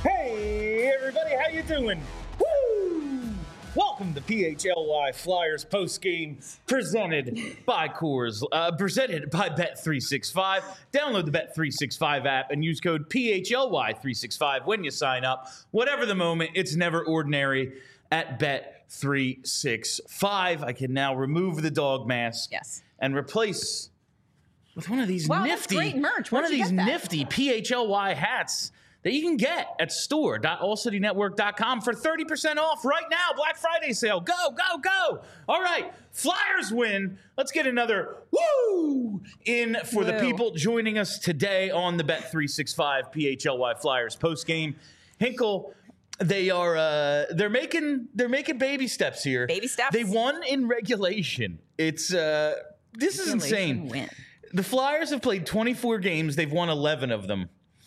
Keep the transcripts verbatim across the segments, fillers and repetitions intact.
Hey, everybody, how you doing? Woo! Welcome to P H L Y Flyers postgame presented by Coors, uh, presented by Bet three sixty-five. Download the Bet three sixty-five app and use code P H L Y three sixty-five when you sign up. Whatever the moment, it's never ordinary at Bet three sixty-five. I can now remove the dog mask yes. and replace with one of these wow, nifty, that's great merch. one of these that? nifty P H L Y hats that you can get at store dot all city network dot com for thirty percent off right now. Black Friday sale. Go, go, go. All right. Flyers win. Let's get another woo in for woo. the people joining us today on the Bet three sixty-five P H L Y Flyers postgame. Hinkle, they are uh, they're making they're making baby steps here. Baby steps. They won in regulation. It's uh, this regulation is insane. Win. The Flyers have played twenty-four games. They've won eleven of them.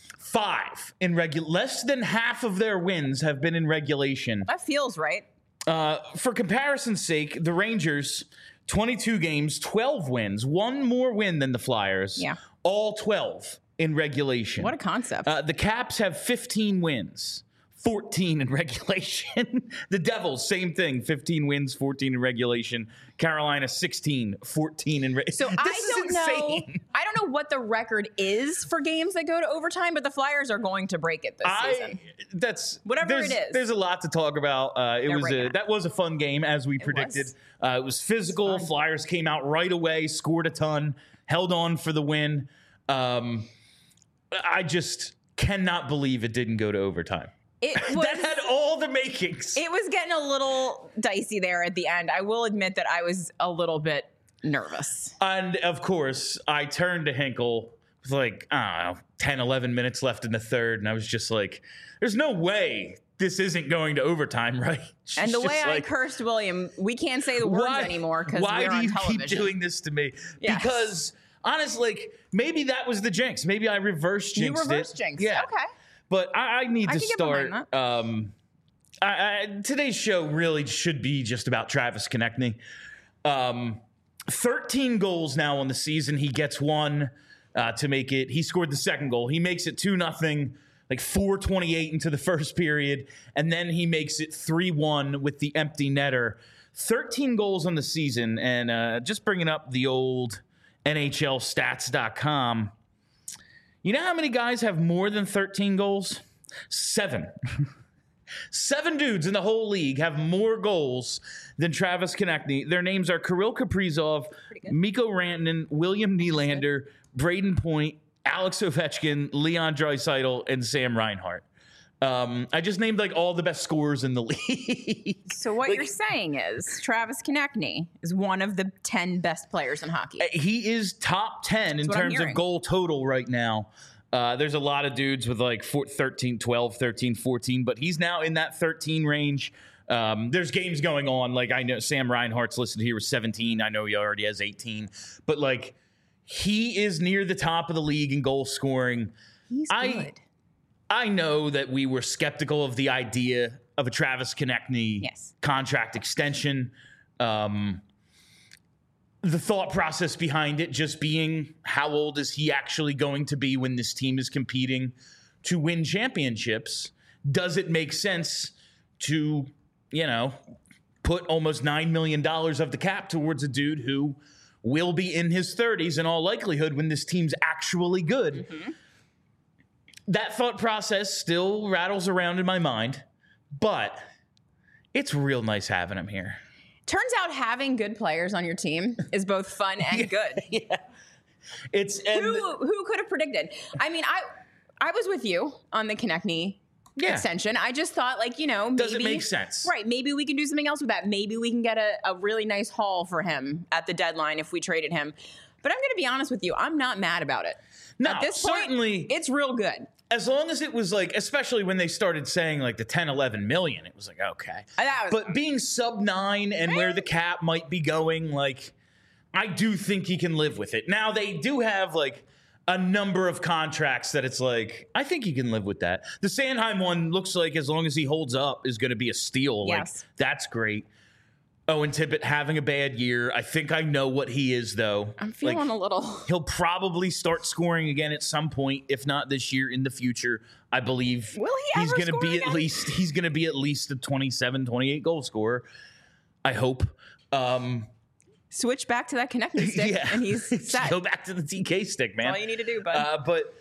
Five in regular. Less than half of their wins have been in regulation. That feels right. Uh, for comparison's sake, the Rangers, twenty-two games, twelve wins, one more win than the Flyers. Yeah. All twelve in regulation. What a concept. Uh, the Caps have fifteen wins, fourteen in regulation. The Devils, same thing, fifteen wins, fourteen in regulation. Carolina, sixteen, fourteen in regulation. So this I don't is insane. know. I don't know what the record is for games that go to overtime, but the Flyers are going to break it this I, season. That's whatever it is. There's a lot to talk about. Uh, it They're was a, it. that was a fun game as we it predicted. Was. Uh, it was physical. It was Flyers came out right away, scored a ton, held on for the win. Um, I just cannot believe it didn't go to overtime. It was, that had all the makings. It was getting a little dicey there at the end. I will admit that I was a little bit nervous. And of course, I turned to Hinkle with like, I don't know, ten, eleven minutes left in the third. And I was just like, there's no way this isn't going to overtime, right? She's and the way I like, cursed William, we can't say the words why, anymore because we're Why do on you television. keep doing this to me? Yes. Because honestly, like, maybe that was the jinx. Maybe I reverse jinxed You reverse it. jinxed. Yeah. Okay. But I, I need I to can get start. behind that. Um, I, I, today's show really should be just about Travis Konecny. Um, thirteen goals now on the season. He gets one uh, to make it. He scored the second goal. He makes it two nothing, like four twenty-eight into the first period, and then he makes it three one with the empty netter. thirteen goals on the season, and uh, just bringing up the old N H L stats dot com. You know how many guys have more than thirteen goals? Seven. Seven dudes in the whole league have more goals than Travis Konecny. Their names are Kirill Kaprizov, Mikko Rantanen, William Nylander, Braden Point, Alex Ovechkin, Leon Draisaitl, and Sam Reinhart. Um, I just named like all the best scorers in the league. So what like, you're saying is Travis Konecny is one of the ten best players in hockey. He is top ten in That's terms of goal total right now. Uh, there's a lot of dudes with like four, thirteen, twelve, thirteen, fourteen, but he's now in that thirteen range. Um, there's games going on. Like I know Sam Reinhart's listed here with seventeen. I know he already has eighteen, but like he is near the top of the league in goal scoring. He's I, good. I know that we were skeptical of the idea of a Travis Konecny yes. contract extension. Um, the thought process behind it just being how old is he actually going to be when this team is competing to win championships? Does it make sense to, you know, put almost nine million dollars of the cap towards a dude who will be in his thirties in all likelihood when this team's actually good? Mm-hmm. That thought process still rattles around in my mind, but it's real nice having him here. Turns out having good players on your team is both fun and yeah, good. Yeah. It's and who who could have predicted? I mean, I I was with you on the Konecny yeah. extension. I just thought, like, you know, maybe, does it make sense? Right. Maybe we can do something else with that. Maybe we can get a, a really nice haul for him at the deadline if we traded him. But I'm going to be honest with you. I'm not mad about it. No, at this point, certainly. It's real good. As long as it was like, especially when they started saying like the ten, eleven million, it was like, okay. That was, but being sub nine and eh. where the cap might be going, like, I do think he can live with it. Now, they do have like a number of contracts that it's like, I think he can live with that. The Sanheim one looks like as long as he holds up is going to be a steal. Yes. Like, that's great. Owen Tippett having a bad year. I think I know what he is, though. I'm feeling like, a little. He'll probably start scoring again at some point, if not this year, in the future. I believe Will he he's ever going to score be again? at least he's going to be at least a twenty-seven, twenty-eight goal scorer. I hope. Um, Switch back to that connecting stick, yeah, and he's set. Go back to the T K stick, man. All you need to do, bud. Uh, but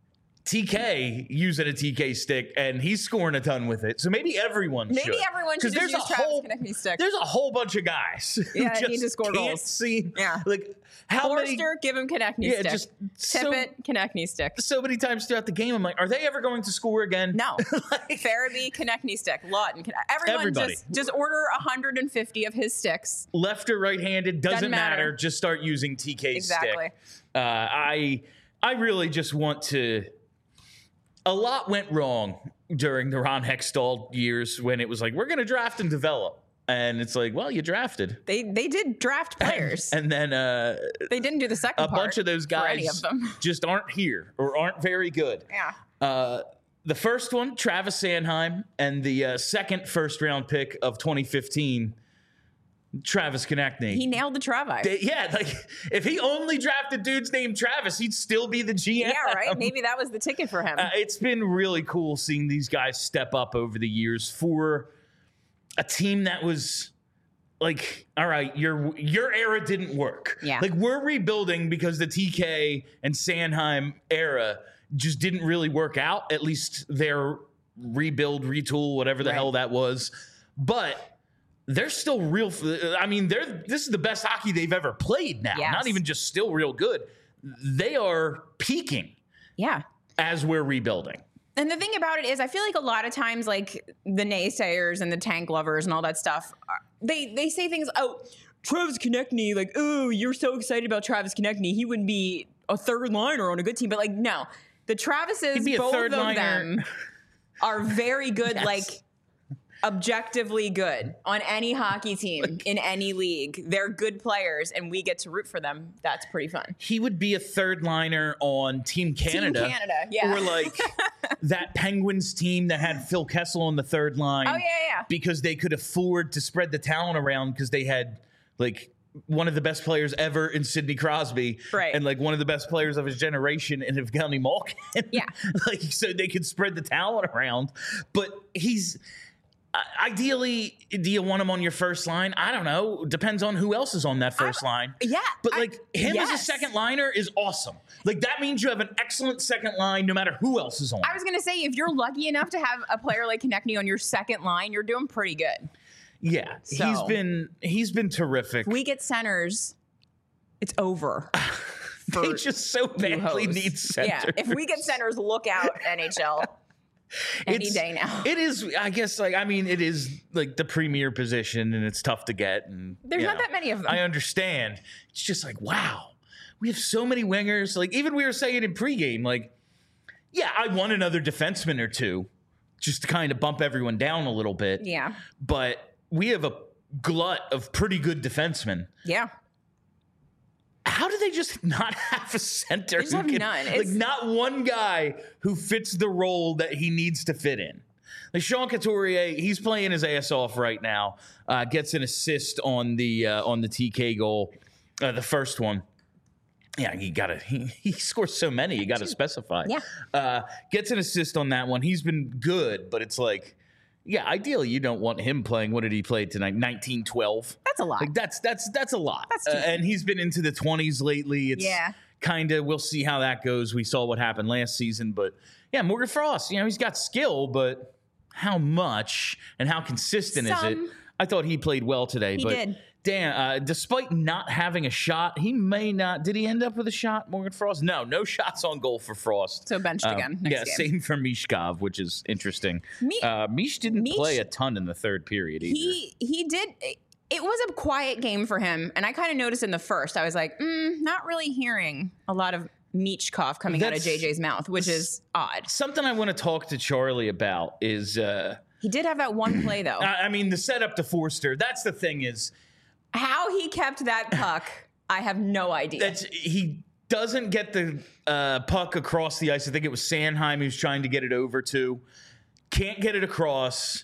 T K using a T K stick, and he's scoring a ton with it. So maybe everyone Maybe should. everyone should 'Cause just there's use a Travis whole Konechny stick. There's a whole bunch of guys who Yeah, that just need to score can't goals. see. Yeah. Like how Forster, many? give him Konechny Yeah, stick. just so, Tippett, Konechny stick. so many times throughout the game, I'm like, are they ever going to score again? No. Like, Farabee, Konechny stick. Lawton. Kon- Everyone Everybody. just just order one hundred fifty of his sticks. left or right-handed doesn't, Doesn't matter. matter. Just start using T K Exactly. stick. Uh, I I really just want to. A lot went wrong during the Ron Hextall years when it was like, we're going to draft and develop. And it's like, well, you drafted. They they did draft players. And then uh, They didn't do the second a part bunch of those for any guys of them. just aren't here or aren't very good. Yeah. Uh, the first one, Travis Sanheim, and the uh, second first-round pick of twenty fifteen, Travis Konechny. He nailed the Travi. They- yeah, like if he only drafted dudes named Travis, he'd still be the G M. Yeah, right? Maybe that was the ticket for him. Uh, it's been really cool seeing these guys step up over the years for a team that was like, all right, your your era didn't work. Yeah. Like we're rebuilding because the T K and Sanheim era just didn't really work out. At least their rebuild, retool, whatever the Right. hell that was. But they're still real. I mean, they're this is the best hockey they've ever played now. Yes. Not even just still real good. They are peaking Yeah. as we're rebuilding. And the thing about it is, I feel like a lot of times, like the naysayers and the tank lovers and all that stuff, are- they they say things. Oh, Travis Konechny, like, oh, you're so excited about Travis Konechny. He wouldn't be a third liner on a good team, but like, no, the Travises, He'd be a both third of liner. them, are very good. Yes. Like. Objectively good on any hockey team in any league. They're good players, and we get to root for them. That's pretty fun. He would be a third liner on Team Canada. Team Canada, yeah. Or like that Penguins team that had Phil Kessel on the third line. Oh, yeah, yeah, yeah. Because they could afford to spread the talent around because they had like one of the best players ever in Sidney Crosby. Right. And like one of the best players of his generation in Evgeny Malkin. Yeah. Like so they could spread the talent around. But he's uh, ideally, do you want him on your first line? I don't know. Depends on who else is on that 1st line. Yeah. But I- like him as a yes. second liner is awesome. Like that means you have an excellent second line no matter who else is on. I was going to say, if you're lucky enough to have a player like Konechny on your second line, you're doing pretty good. Yeah, So- he's been he's been terrific. We get centers, it's over. they for just so you badly hoes. need centers. Yeah, if we get centers, look out, N H L. Any It's- day now. It is, I guess, like I mean, it is like the premier position, and it's tough to get. And There's you not know, that many of them. I understand. It's just like wow, we have so many wingers. Like even we were saying in pregame, like yeah, I want another defenseman or two, just to kind of bump everyone down a little bit. Yeah. But we have a glut of pretty good defensemen. Yeah. How do they just not have a center? They just who have can- none. Like It's- not one guy who fits the role that he needs to fit in. Like Sean Couturier, he's playing his ass off right now. Uh, gets an assist on the uh, on the T K goal, uh, the first one. Yeah, he got to. He, he scores so many. You got to specify. Yeah. Uh, gets an assist on that one. He's been good, but it's like, yeah, ideally you don't want him playing. What did he play tonight? nineteen twelve. That's a lot. Like that's that's that's a lot. That's Uh, decent. and he's been into the twenties lately. It's Yeah. kind of we'll see how that goes. We saw what happened last season, but yeah, Morgan Frost, you know, he's got skill, but how much and how consistent is it? Some. I thought he played well today, He but did. Dan, uh, despite not having a shot, he may not. Did he end up with a shot, Morgan Frost? No, no shots on goal for Frost. So benched Uh, again next yeah, game. same for Mishkov, which is interesting. Mi- uh, Mish didn't Mish- play a ton in the third period either. He he did. It was a quiet game for him, and I kind of noticed in the first. I was like, mm, not really hearing a lot of Michkov coming out of That's- J J's mouth, which is odd. Something I want to talk to Charlie about is, uh, He did have that one play though. I I mean, the setup to Forster. That's the thing is, How he kept that puck, I have no idea. that's he doesn't get the uh, puck across the ice. I think it was Sanheim who's trying to get it over to. Can't get it across.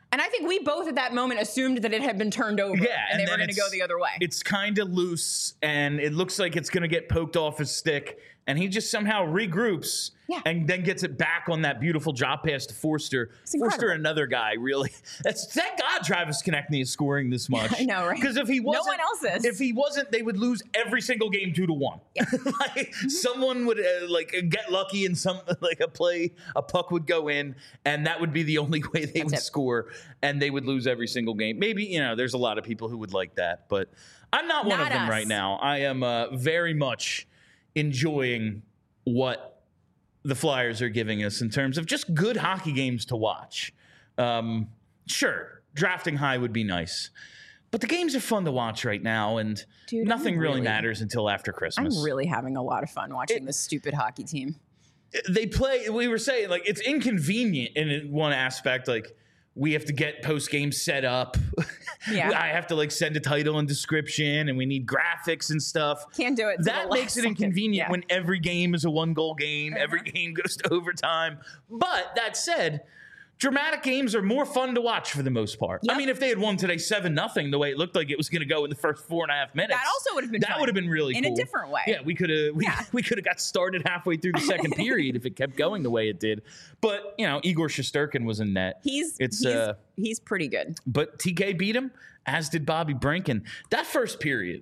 And I think we both at that moment assumed that it had been turned over. Yeah, and, and they were then going to go it's- the other way. It's kind of loose, and it looks like it's going to get poked off his stick, and he just somehow regroups Yeah. and then gets it back on that beautiful drop pass to Forster. incredible. Forster, another guy, really. That's thank God Travis Konechny is scoring this much. I know, right? Because if he wasn't, one else is. If he wasn't, they would lose every single game two to one. Yeah. like someone would uh, like get lucky, and some like a play, a puck would go in, and that would be the only way they That's would it. score, and they would lose every single game. Maybe you know, there's a lot of people who would like that, but I'm not one Not of them us. right now. I am uh, very much enjoying what the Flyers are giving us in terms of just good hockey games to watch. Um, sure, drafting high would be nice, but the games are fun to watch right now, and Dude, nothing I'm really, really- matters until after Christmas. I'm really having a lot of fun watching this stupid hockey team. They play. We were saying like it's inconvenient in one aspect, like. We have to get post game set up. Yeah. I have to like send a title and description, and we need graphics and stuff. Can't do it. till That the makes last it second. inconvenient Yeah. when every game is a one goal game, every Uh-huh. game goes to overtime. But that said, dramatic games are more fun to watch for the most part. I Yep. mean, if they had won today seven nothing, the way it looked like it was going to go in the first four and a half minutes, That also would have been that fun. would have been really in cool a different way. Yeah, we could have we, Yeah. we could have got started halfway through the second period if it kept going the way it did. But you know, Igor Shesterkin was in net. He's It's, he's, uh, he's pretty good. But T K beat him, as did Bobby Brinken. That first period,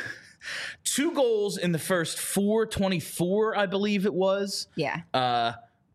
two goals in the first four twenty-four, I believe it was. Yeah. Uh,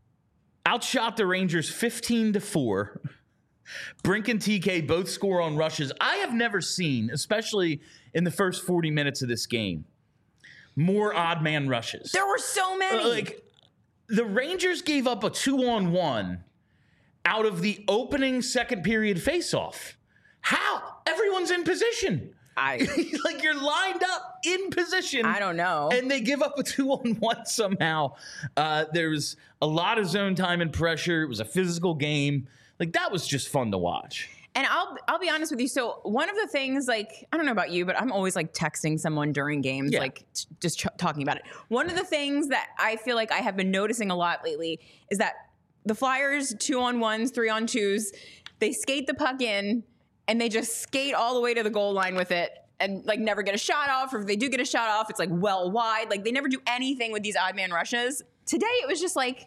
outshot the Rangers fifteen to four. Brink and T K both score on rushes. I have never seen, especially in the first forty minutes of this game, more odd man rushes. There were so many. Uh, like the Rangers gave up a two-on-one out of the opening second period faceoff. How? Everyone's in position. I like you're lined up in position. I don't know. And they give up a two-on-one somehow. Uh, there was a lot of zone time and pressure. It was a physical game. Like that was just fun to watch. And I'll I'll be honest with you. So one of the things, like, I don't know about you, but I'm always like texting someone during games, Yeah. like t- just ch- talking about it. One of the things that I feel like I have been noticing a lot lately is that the Flyers two on ones, three on twos, they skate the puck in and they just skate all the way to the goal line with it and like never get a shot off. Or if they do get a shot off, it's like well wide. Like they never do anything with these odd man rushes. Today it was just like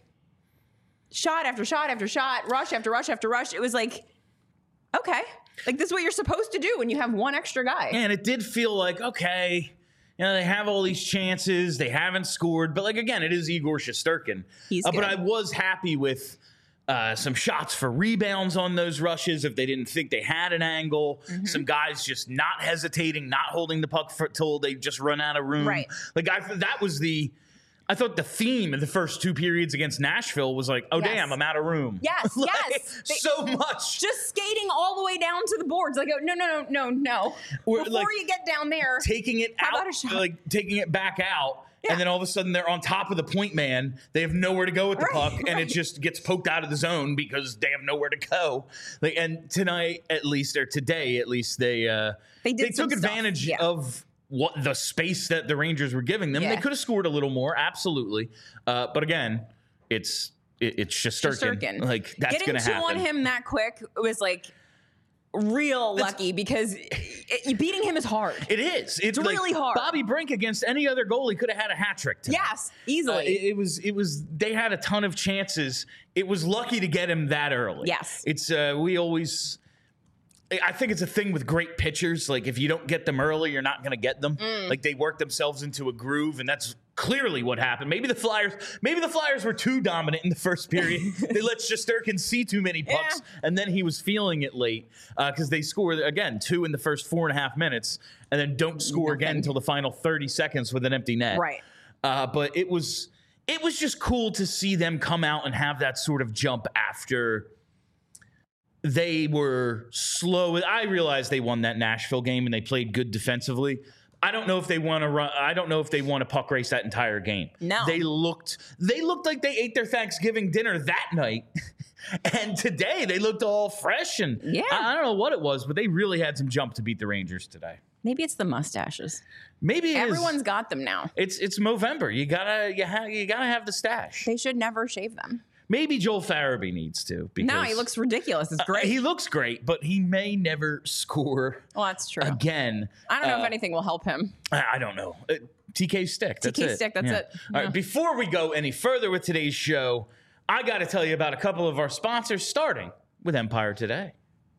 shot after shot after shot, rush after rush after rush. It was like, okay, like this is what you're supposed to do when you have one extra guy. And it did feel like, okay, you know, they have all these chances. They haven't scored. But, like, again, it is Igor Shesterkin. He's Uh, but good. I was happy with uh, some shots for rebounds on those rushes if they didn't think they had an angle. Mm-hmm. Some guys just not hesitating, not holding the puck for, till they just run out of room. Right. Like, I, that was the... I thought the theme in the first two periods against Nashville was like, oh, Yes. damn, I'm out of room. Yes, Like, yes. They- so much. Just skating all the way down to the boards. Like, oh, no, no, no, no, no. Or, Before like, you get down there, taking it How out, about a shot? like taking it back out, Yeah. and then all of a sudden they're on top of the point man. They have nowhere to go with the Right, puck, and right. it just gets poked out of the zone because they have nowhere to go. Like, and tonight, at least, or today, at least, they uh, They did took some stuff, advantage yeah. of what the space that the Rangers were giving them. Yeah. They could have scored a little more, absolutely. Uh, but again, it's it, it's Shesterkin. Shesterkin. Like that's getting going to two happen. on him that quick was like real lucky because it, it- beating him is hard. It is. It's like, really hard. Bobby Brink against any other goalie could have had a hat trick tonight. Yes, Uh, easily. it, it was. It was. They had a ton of chances. It was lucky to get him that early. Yes. It's. Uh, we always. I think it's a thing with great pitchers. Like if you don't get them early, you're not going to get them. Mm. Like they work themselves into a groove, and that's clearly what happened. Maybe the Flyers. Maybe the Flyers were too dominant in the first period. They let Shesterkin see too many pucks, Yeah. and then he was feeling it late because they scored again two in the first four and a half minutes, and then don't score again Nothing. until the final thirty seconds with an empty net. Right. Uh, but it was it was just cool to see them come out and have that sort of jump after they were slow. I realized they won that Nashville game and they played good defensively. I don't know if they want to run. I don't know if they want to puck race that entire game. No. They looked. They looked like they ate their Thanksgiving dinner that night, and today they looked all fresh. And Yeah. I, I don't know what it was, but they really had some jump to beat the Rangers today. Maybe it's the mustaches. Maybe it is. Everyone's got them now. It's it's Movember. You gotta you have you gotta have the stash. They should never shave them. Maybe Joel Farabee needs to. Because, no, he looks ridiculous. It's great. Uh, he looks great, but he may never score well, that's true. again. I don't know uh, if anything will help him. I, I don't know. Uh, T K stick. That's T K it. stick, that's Yeah. it. All Yeah. right, before we go any further with today's show, I got to tell you about a couple of our sponsors, starting with Empire Today.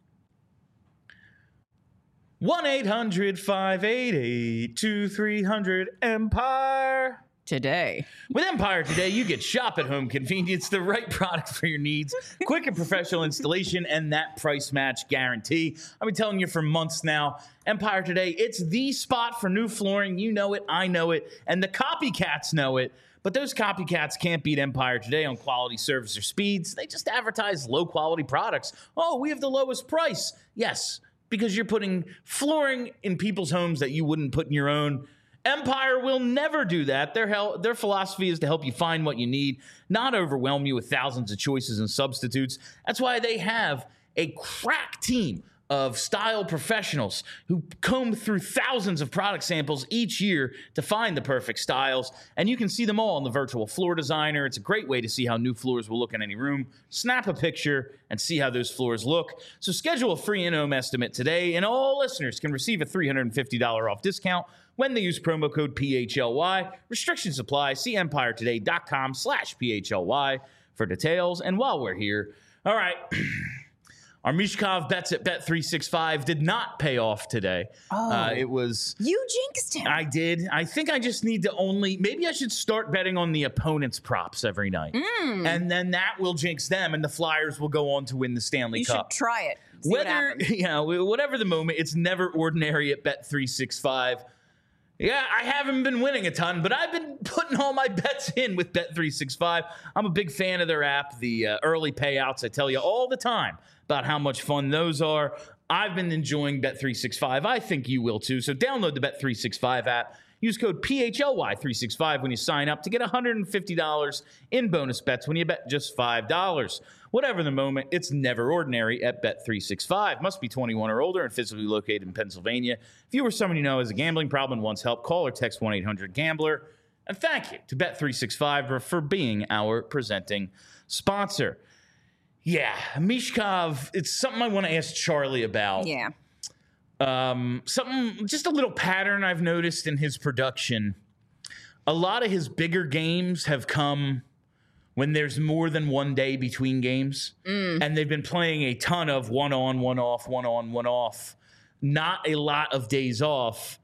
one eight hundred five eight eight two three hundred Empire. Today. With Empire Today, you get shop at home convenience, the right product for your needs, quick and professional installation, and that price match guarantee. I've been telling you for months now, Empire Today, it's the spot for new flooring. You know it, I know it, and the copycats know it. But those copycats can't beat Empire Today on quality, service, or speeds. They just advertise low-quality products. Oh, we have the lowest price. Yes, because you're putting flooring in people's homes that you wouldn't put in your own. Empire will never do that. Their hel- their philosophy is to help you find what you need, not overwhelm you with thousands of choices and substitutes. That's why they have a crack team of style professionals who comb through thousands of product samples each year to find the perfect styles. And you can see them all on the virtual floor designer. It's a great way to see how new floors will look in any room. Snap a picture and see how those floors look. So schedule a free in-home estimate today, and all listeners can receive a three hundred fifty dollars off discount when they use promo code P H L Y. Restrictions apply. See empire today dot com slash P H L Y for details. And while we're here, all right, our Mishkov bets at Bet three sixty-five did not pay off today. Oh. Uh, it was... You jinxed him. I did. I think I just need to only... Maybe I should start betting on the opponent's props every night. Mm. And then that will jinx them, and the Flyers will go on to win the Stanley you Cup. should try it. See what Whether, happens. you know, whatever the moment, it's never ordinary at Bet three sixty-five. Yeah, I haven't been winning a ton, but I've been putting all my bets in with Bet three sixty-five. I'm a big fan of their app, the uh, early payouts. I tell you all the time about how much fun those are. I've been enjoying Bet three sixty-five. I think you will too. So download the Bet three sixty-five app. Use code P H L Y three sixty-five when you sign up to get one hundred fifty dollars in bonus bets when you bet just five dollars. Whatever the moment, it's never ordinary at Bet three sixty-five. Must be twenty-one or older and physically located in Pennsylvania. If you or someone you know has a gambling problem and wants help, call or text one eight hundred gambler. And thank you to Bet three sixty-five for being our presenting sponsor. Yeah, Mishkov, it's something I want to ask Charlie about. Yeah. Um, something, just a little pattern I've noticed in his production. A lot of his bigger games have come when there's more than one day between games. Mm. And they've been playing a ton of one on, one off, one on, one off. Not a lot of days off.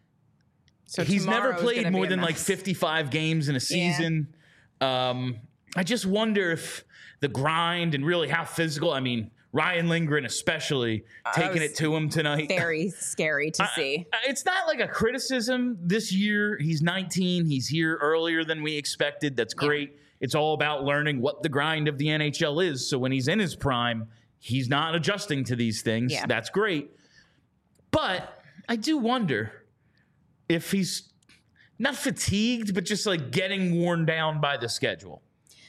So He's never tomorrow's played gonna more be a than like mess. fifty-five games in a season. Um, I just wonder if the grind and really how physical, I mean, Ryan Lindgren especially taking was it to him tonight. Very scary to see. I- It's not like a criticism this year. He's nineteen. He's here earlier than we expected. That's great. It's all about learning what the grind of the N H L is. So when he's in his prime, he's not adjusting to these things. Yeah. That's great. But I do wonder if he's not fatigued, but just like getting worn down by the schedule.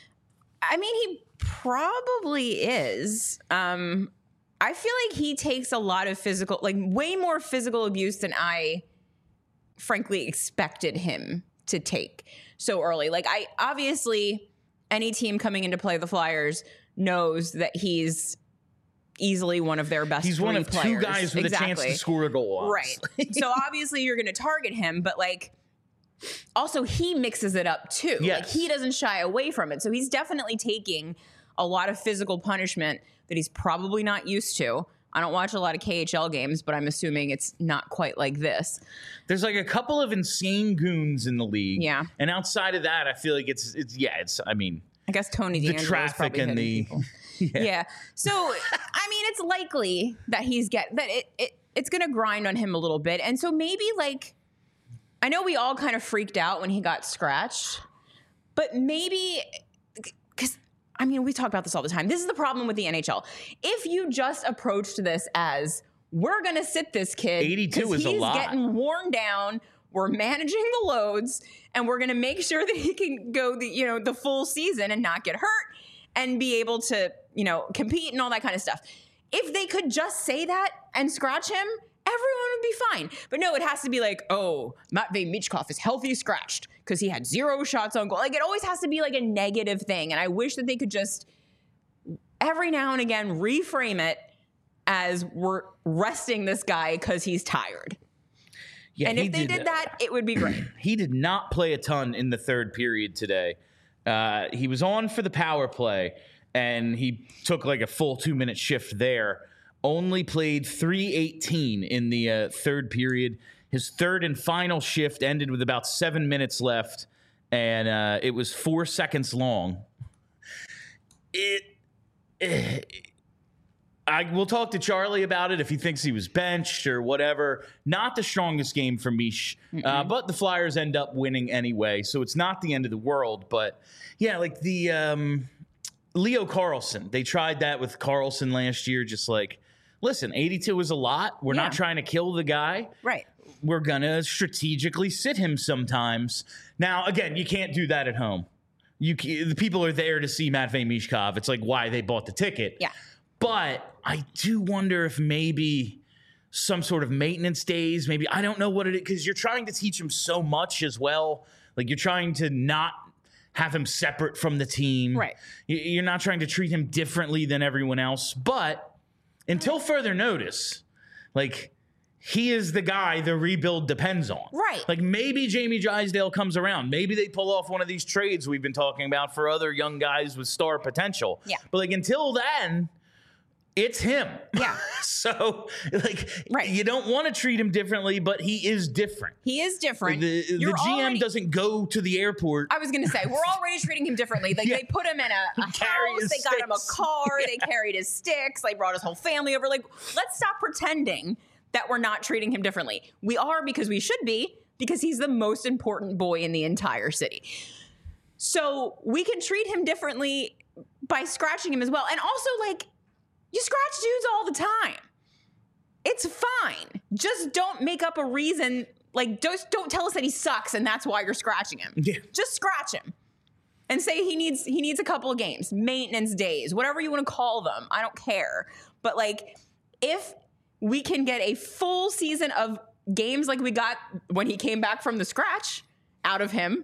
I mean, he probably is. Um, I feel like he takes a lot of physical, like way more physical abuse than I frankly expected him to take so early. Like, I obviously, any team coming in to play the Flyers knows that he's easily one of their best He's one three of players. two guys with Exactly. a chance to score a goal. Right. So obviously you're going to target him, but like also he mixes it up too. Yes. Like he doesn't shy away from it. So he's definitely taking a lot of physical punishment that he's probably not used to. I don't watch a lot of K H L games, but I'm assuming it's not quite like this. There's like a couple of insane goons in the league. Yeah. And outside of that, I feel like it's, it's yeah, it's, I mean, I guess Tony the DeAngelo is traffic probably and hitting the, people. yeah. Yeah. So I mean, it's likely that he's get that it, it it's gonna grind on him a little bit. And so maybe like I know we all kind of freaked out when he got scratched, but maybe because I mean we talk about this all the time. This is the problem with the N H L. If you just approached this as we're gonna sit this kid, eighty-two 'cause is a he's lot. getting worn down. We're managing the loads, and we're going to make sure that he can go the you know the full season and not get hurt and be able to you know compete and all that kind of stuff. If they could just say that and scratch him everyone would be fine. But no, it has to be like, oh, Matvei Michkov is healthy scratched because he had zero shots on goal. Like, it always has to be like a negative thing. And I wish that they could just every now and again reframe it as we're resting this guy because he's tired. Yeah, and if they did, did that, it would be great. He did not play a ton in the third period today. Uh, he was on for the power play, and he took like a full two-minute shift there. Only played three eighteen in the uh, third period. His third and final shift ended with about seven minutes left, and uh, it was four seconds long. It, it I will talk to Charlie about it if he thinks he was benched or whatever. Not the strongest game for Mish, uh, but the Flyers end up winning anyway, so it's not the end of the world. But yeah, like the um, Leo Carlsson, they tried that with Carlsson last year. Just like, listen, eighty-two is a lot. We're Yeah. not trying to kill the guy. Right. We're gonna strategically sit him sometimes. Now, again, you can't do that at home. You the people are there to see Matvei Michkov. It's like why they bought the ticket. Yeah. But I do wonder if maybe some sort of maintenance days, maybe, I don't know what it is, because you're trying to teach him so much as well. Like, you're trying to not have him separate from the team. Right. You- You're not trying to treat him differently than everyone else. But until further notice, like, he is the guy the rebuild depends on. Right. Like, maybe Jamie Drysdale comes around. Maybe they pull off one of these trades we've been talking about for other young guys with star potential. Yeah. But, like, until then, it's him. Yeah. So, like, Right. you don't want to treat him differently, but he is different. He is different. The, the You're G M already- doesn't go to the airport. I was going to say, we're already treating him differently. Like, Yeah. they put him in a, a Carry house, his they got him a sticks. car, they carried his sticks, they brought his whole family over. Like, let's stop pretending that we're not treating him differently. We are, because we should be, because he's the most important boy in the entire city. So we can treat him differently by scratching him as well. And also, like, you scratch dudes all the time. It's fine. Just don't make up a reason. Like, just don't tell us that he sucks and that's why you're scratching him. Yeah. Just scratch him and say he needs he needs a couple of games, maintenance days, whatever you want to call them. I don't care. But like, if we can get a full season of games like we got when he came back from the scratch out of him,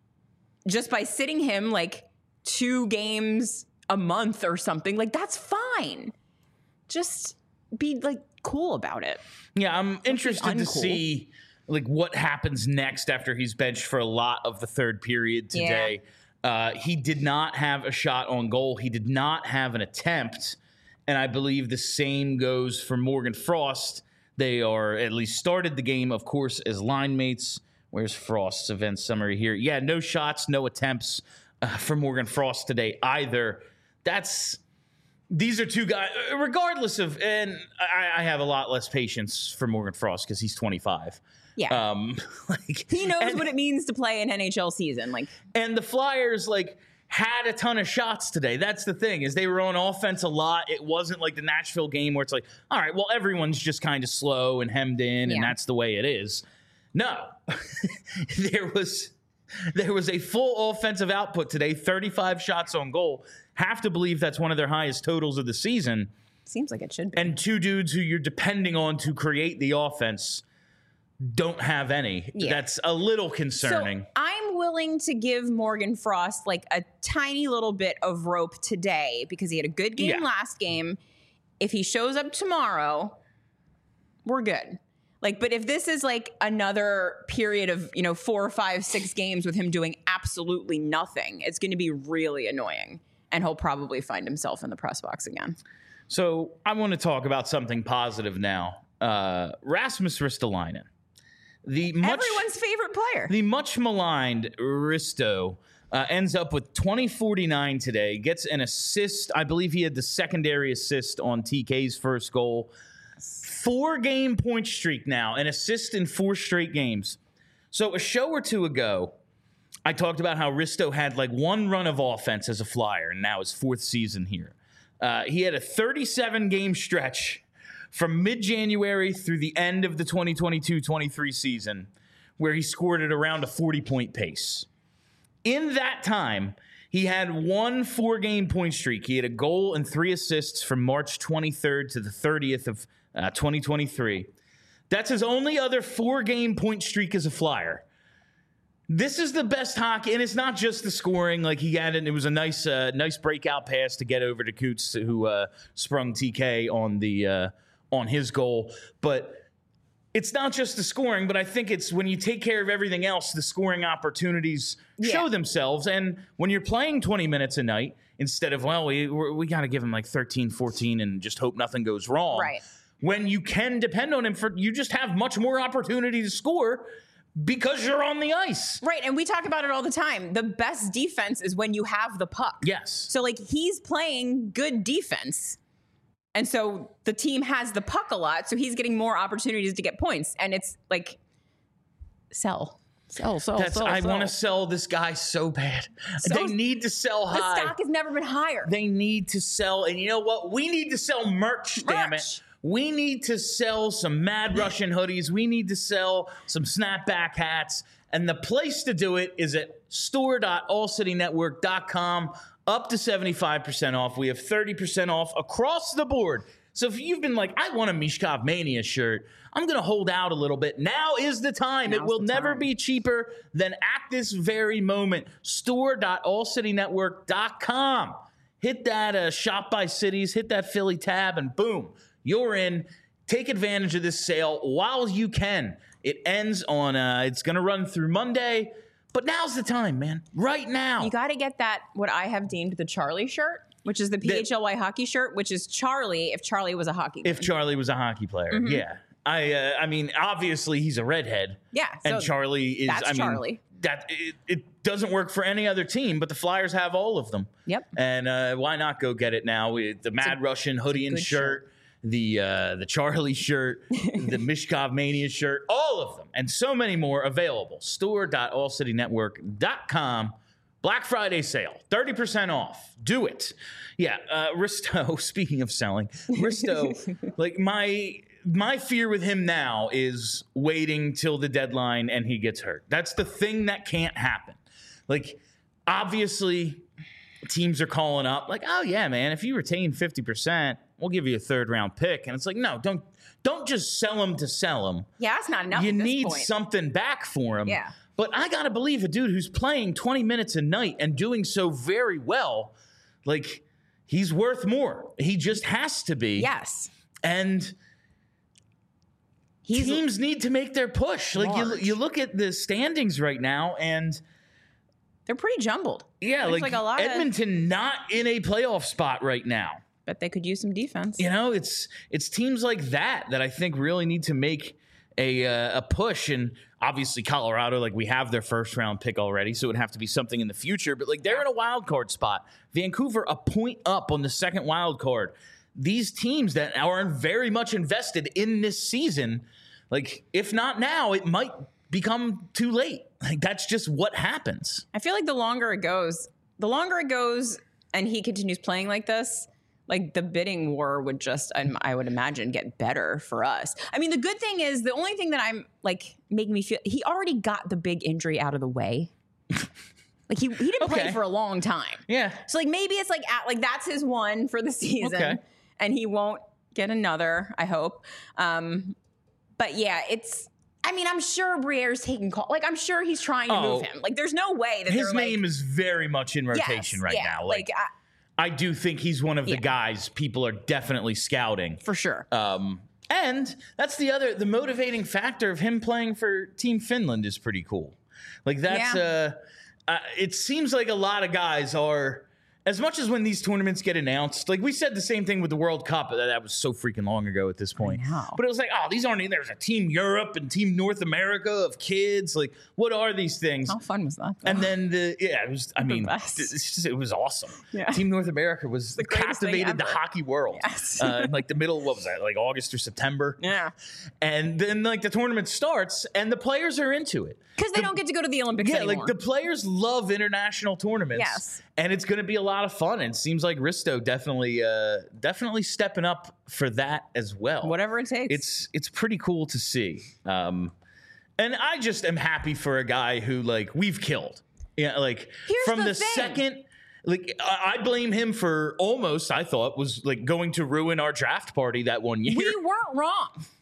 just by sitting him like two games a month or something, like, that's fine. Just be like cool about it. Yeah, I'm interested to uncool. see like what happens next after he's benched for a lot of the third period today. Uh, he did not have a shot on goal. He did not have an attempt. And I believe the same goes for Morgan Frost. They are at least started the game, of course, as line mates. Where's Frost's event summary here? Yeah, no shots, no attempts uh, for Morgan Frost today either. That's these are two guys, regardless of, and I, I have a lot less patience for Morgan Frost because he's twenty-five. Yeah. Um, like He knows and, what it means to play an N H L season. Like, and the Flyers like had a ton of shots today. That's the thing, is they were on offense a lot. It wasn't like the Nashville game where it's like, all right, well, everyone's just kind of slow and hemmed in, and Yeah. that's the way it is. No, there was there was a full offensive output today. thirty-five shots on goal. Have to believe that's one of their highest totals of the season. seems like it should be. And two dudes who you're depending on to create the offense don't have any. Yeah. That's a little concerning. So I'm willing to give Morgan Frost like a tiny little bit of rope today because he had a good game Yeah. last game. If he shows up tomorrow, we're good. Like, but if this is like another period of, you know, four, five, six games with him doing absolutely nothing, it's going to be really annoying. And he'll probably find himself in the press box again. So I want to talk about something positive now. Uh, Rasmus Ristolainen. The much, Everyone's favorite player. the much maligned Risto uh, ends up with twenty forty-nine today, gets an assist. I believe he had the secondary assist on T K's first goal. Four game point streak now, an assist in four straight games. So a show or two ago, I talked about how Risto had like one run of offense as a Flyer, and now his fourth season here. Uh, he had a thirty-seven game stretch from mid-January through the end of the twenty twenty-two twenty-three season where he scored at around a forty-point pace. In that time, he had one four-game point streak. He had a goal and three assists from March twenty-third to the thirtieth of uh, twenty twenty-three. That's his only other four-game point streak as a Flyer. This is the best hockey, and it's not just the scoring. Like he had it, it was a nice, uh, nice breakout pass to get over to Coots, who uh, sprung T K on the uh, on his goal. But it's not just the scoring, but I think it's when you take care of everything else, the scoring opportunities yeah. show themselves. And when you're playing twenty minutes a night, instead of, well, we we got to give him like thirteen, fourteen and just hope nothing goes wrong. Right. When you can depend on him for, you just have much more opportunity to score because you're on the ice. Right, and we talk about it all the time. The best defense is when you have the puck. Yes. So, like, he's playing good defense. And so the team has the puck a lot, so he's getting more opportunities to get points. And it's like, sell. Sell, sell, That's, sell, I sell. want to sell this guy so bad. So they need to sell the high. The stock has never been higher. They need to sell. And you know what? We need to sell merch, merch. damn it. We need to sell some Mad Russian hoodies. We need to sell some snapback hats. And the place to do it is at store dot all city network dot com, up to seventy-five percent off. We have thirty percent off across the board. So if you've been like, I want a Mishkov Mania shirt, I'm going to hold out a little bit. Now is the time. Now's it will never time. be cheaper than at this very moment. store dot all city network dot com. Hit that uh, shop by cities, hit that Philly tab, and boom, you're in. Take advantage of this sale while you can. It ends on, uh, it's going to run through Monday, but now's the time, man. Right now. You got to get that, what I have deemed the Charlie shirt, which is the P H L Y hockey shirt, which is Charlie if Charlie was a hockey player. If Charlie was a hockey player, mm-hmm. yeah. I uh, I mean, obviously he's a redhead. Yeah. So and Charlie is, that's I mean, Charlie. That, it, it doesn't work for any other team, but the Flyers have all of them. Yep. And uh, why not go get it now? We, the Mad Russian hoodie and shirt. shirt. The uh, the Charlie shirt, the Mishkov Mania shirt, all of them, and so many more available. store dot all city network dot com. Black Friday sale, thirty percent off. Do it. Yeah, uh, Risto, speaking of selling, Risto, like my my fear with him now is waiting till the deadline and he gets hurt. That's the thing that can't happen. Like, obviously, teams are calling up like, oh, yeah, man, if you retain fifty percent, we'll give you a third round pick. And it's like, no, don't don't just sell him to sell him. Yeah, that's not enough. You at this need point. something back for him. Yeah. But I got to believe a dude who's playing twenty minutes a night and doing so very well, like, he's worth more. He just has to be. Yes. And he's teams need to make their push. Large. Like, you, you look at the standings right now, and they're pretty jumbled. Yeah, like, like a lot Edmonton of... not in a playoff spot right now. But they could use some defense. You know, it's it's teams like that that I think really need to make a uh, a push. And obviously Colorado, like, we have their first round pick already, so it would have to be something in the future. But like, they're in a wild card spot. Vancouver a point up on the second wild card. These teams that are very much invested in this season, like, if not now, it might become too late. Like, that's just what happens. I feel like the longer it goes, the longer it goes, and he continues playing like this, like, the bidding war would just, I would imagine, get better for us. I mean, the good thing is, the only thing that I'm, like, making me feel, he already got the big injury out of the way. Like, he, he didn't okay. play for a long time. Yeah. So, like, maybe it's, like, at, like that's his one for the season. Okay. And he won't get another, I hope. Um, but, yeah, it's, I mean, I'm sure Briere's taking call. Like, I'm sure he's trying to oh, move him. Like, there's no way that his name like, is very much in rotation yes, right yeah, now. Like, like I, I do think he's one of the yeah. guys people are definitely scouting. For sure. Um, and that's the other, the motivating factor of him playing for Team Finland is pretty cool. Like, that's, yeah. uh, uh, it seems like a lot of guys are, as much as when these tournaments get announced, like we said the same thing with the World Cup. That, that was so freaking long ago at this point. But it was like, oh, these aren't, there's a Team Europe and Team North America of kids. Like, what are these things? How fun was that? Though? And then the, yeah, it was, I mean, it's just, it was awesome. Yeah. Team North America was the captivated the hockey world. Yes. uh, in like the middle, what was that, like August or September? Yeah. And then like the tournament starts and the players are into it. Because they the, don't get to go to the Olympics yeah, anymore. like the players love international tournaments. Yes. And it's going to be a lot of fun. And it seems like Risto definitely uh, definitely stepping up for that as well. Whatever it takes. It's it's pretty cool to see. Um, and I just am happy for a guy who, like, we've killed. Yeah, like, Here's from the, the thing. second... Like, I blame him for almost, I thought, was like going to ruin our draft party that one year. We weren't wrong.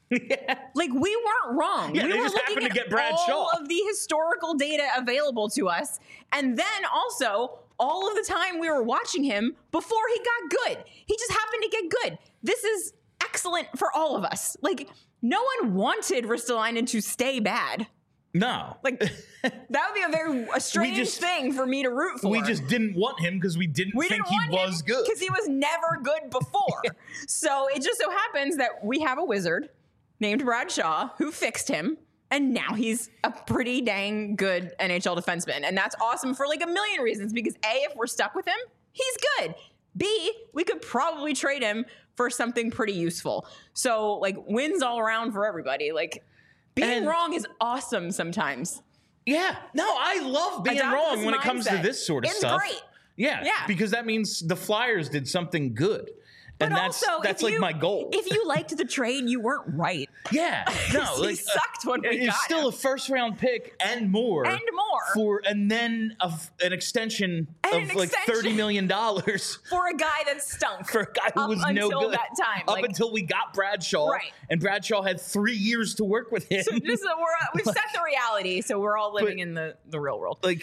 Yeah. Like, we weren't wrong. Yeah, we they were just looking happened to at get Brad all Shaw. of the historical data available to us. And then also all of the time we were watching him before he got good. He just happened to get good. This is excellent for all of us. Like, no one wanted Ristolainen to stay bad. No. Like, that would be a very a strange just- thing for me to root for. We just didn't want him because we didn't We think didn't he want was him good. because he was never good before. So it just so happens that we have a wizard named Brad Shaw who fixed him, and now he's a pretty dang good N H L defenseman, and that's awesome for like a million reasons. Because A, if we're stuck with him, he's good. B, we could probably trade him for something pretty useful. So like wins all around for everybody. Like being And- wrong is awesome sometimes. Yeah. No, I love being Adopt wrong this when it comes to mindset. this sort of It's stuff. great. Yeah. Yeah. Because that means the Flyers did something good. And But that's also, that's if like you- my goal. If you liked the trade, you weren't right. Yeah. No, He like sucked when we it's got still him. a first round pick and more. And more. For and then a f an extension And of an like extension. thirty million dollars For a guy that stunk. for a guy who up was no until good. that time. Up Like, until we got Bradshaw. Right. And Bradshaw had three years to work with him. so this is, we're, we've set the reality, so we're all living in the, the real world. like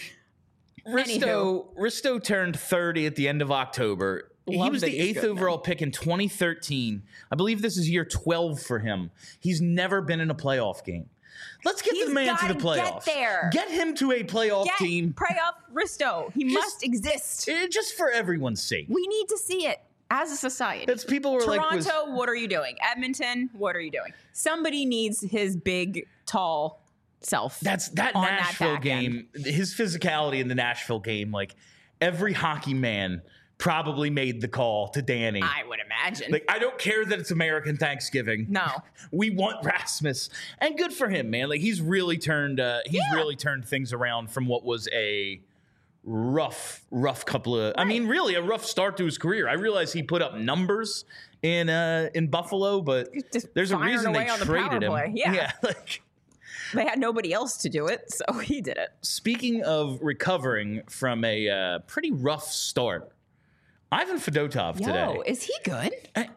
Risto, Risto turned thirty at the end of October. he Love was that the he's eighth good overall now. pick in twenty thirteen. I believe this is year twelve for him. He's never been in a playoff game. Let's get He's the man to the gotta get playoffs. there. Get him to a playoff Get team, playoff Risto. He Just- must exist. eh, just for everyone's sake. We need to see it as a society. That's people were like, was- Toronto, what are you doing? Edmonton, what are you doing? Somebody needs his big, tall self. That's that on that Nashville back game. His physicality in the Nashville game, like every hockey man probably made the call to Danny. I would imagine. Like, I don't care that it's American Thanksgiving. no. We want Rasmus, and good for him, man. Like he's really turned, uh, he's Yeah. really turned things around from what was a rough, rough couple of. I mean, really a rough start to his career. I realize he put up numbers in uh in Buffalo, but Just there's a firing reason they away on the traded power him. play. Yeah. like. They had nobody else to do it, so he did it. Speaking of recovering from a uh, pretty rough start, Ivan Fedotov Yo, today. is he good?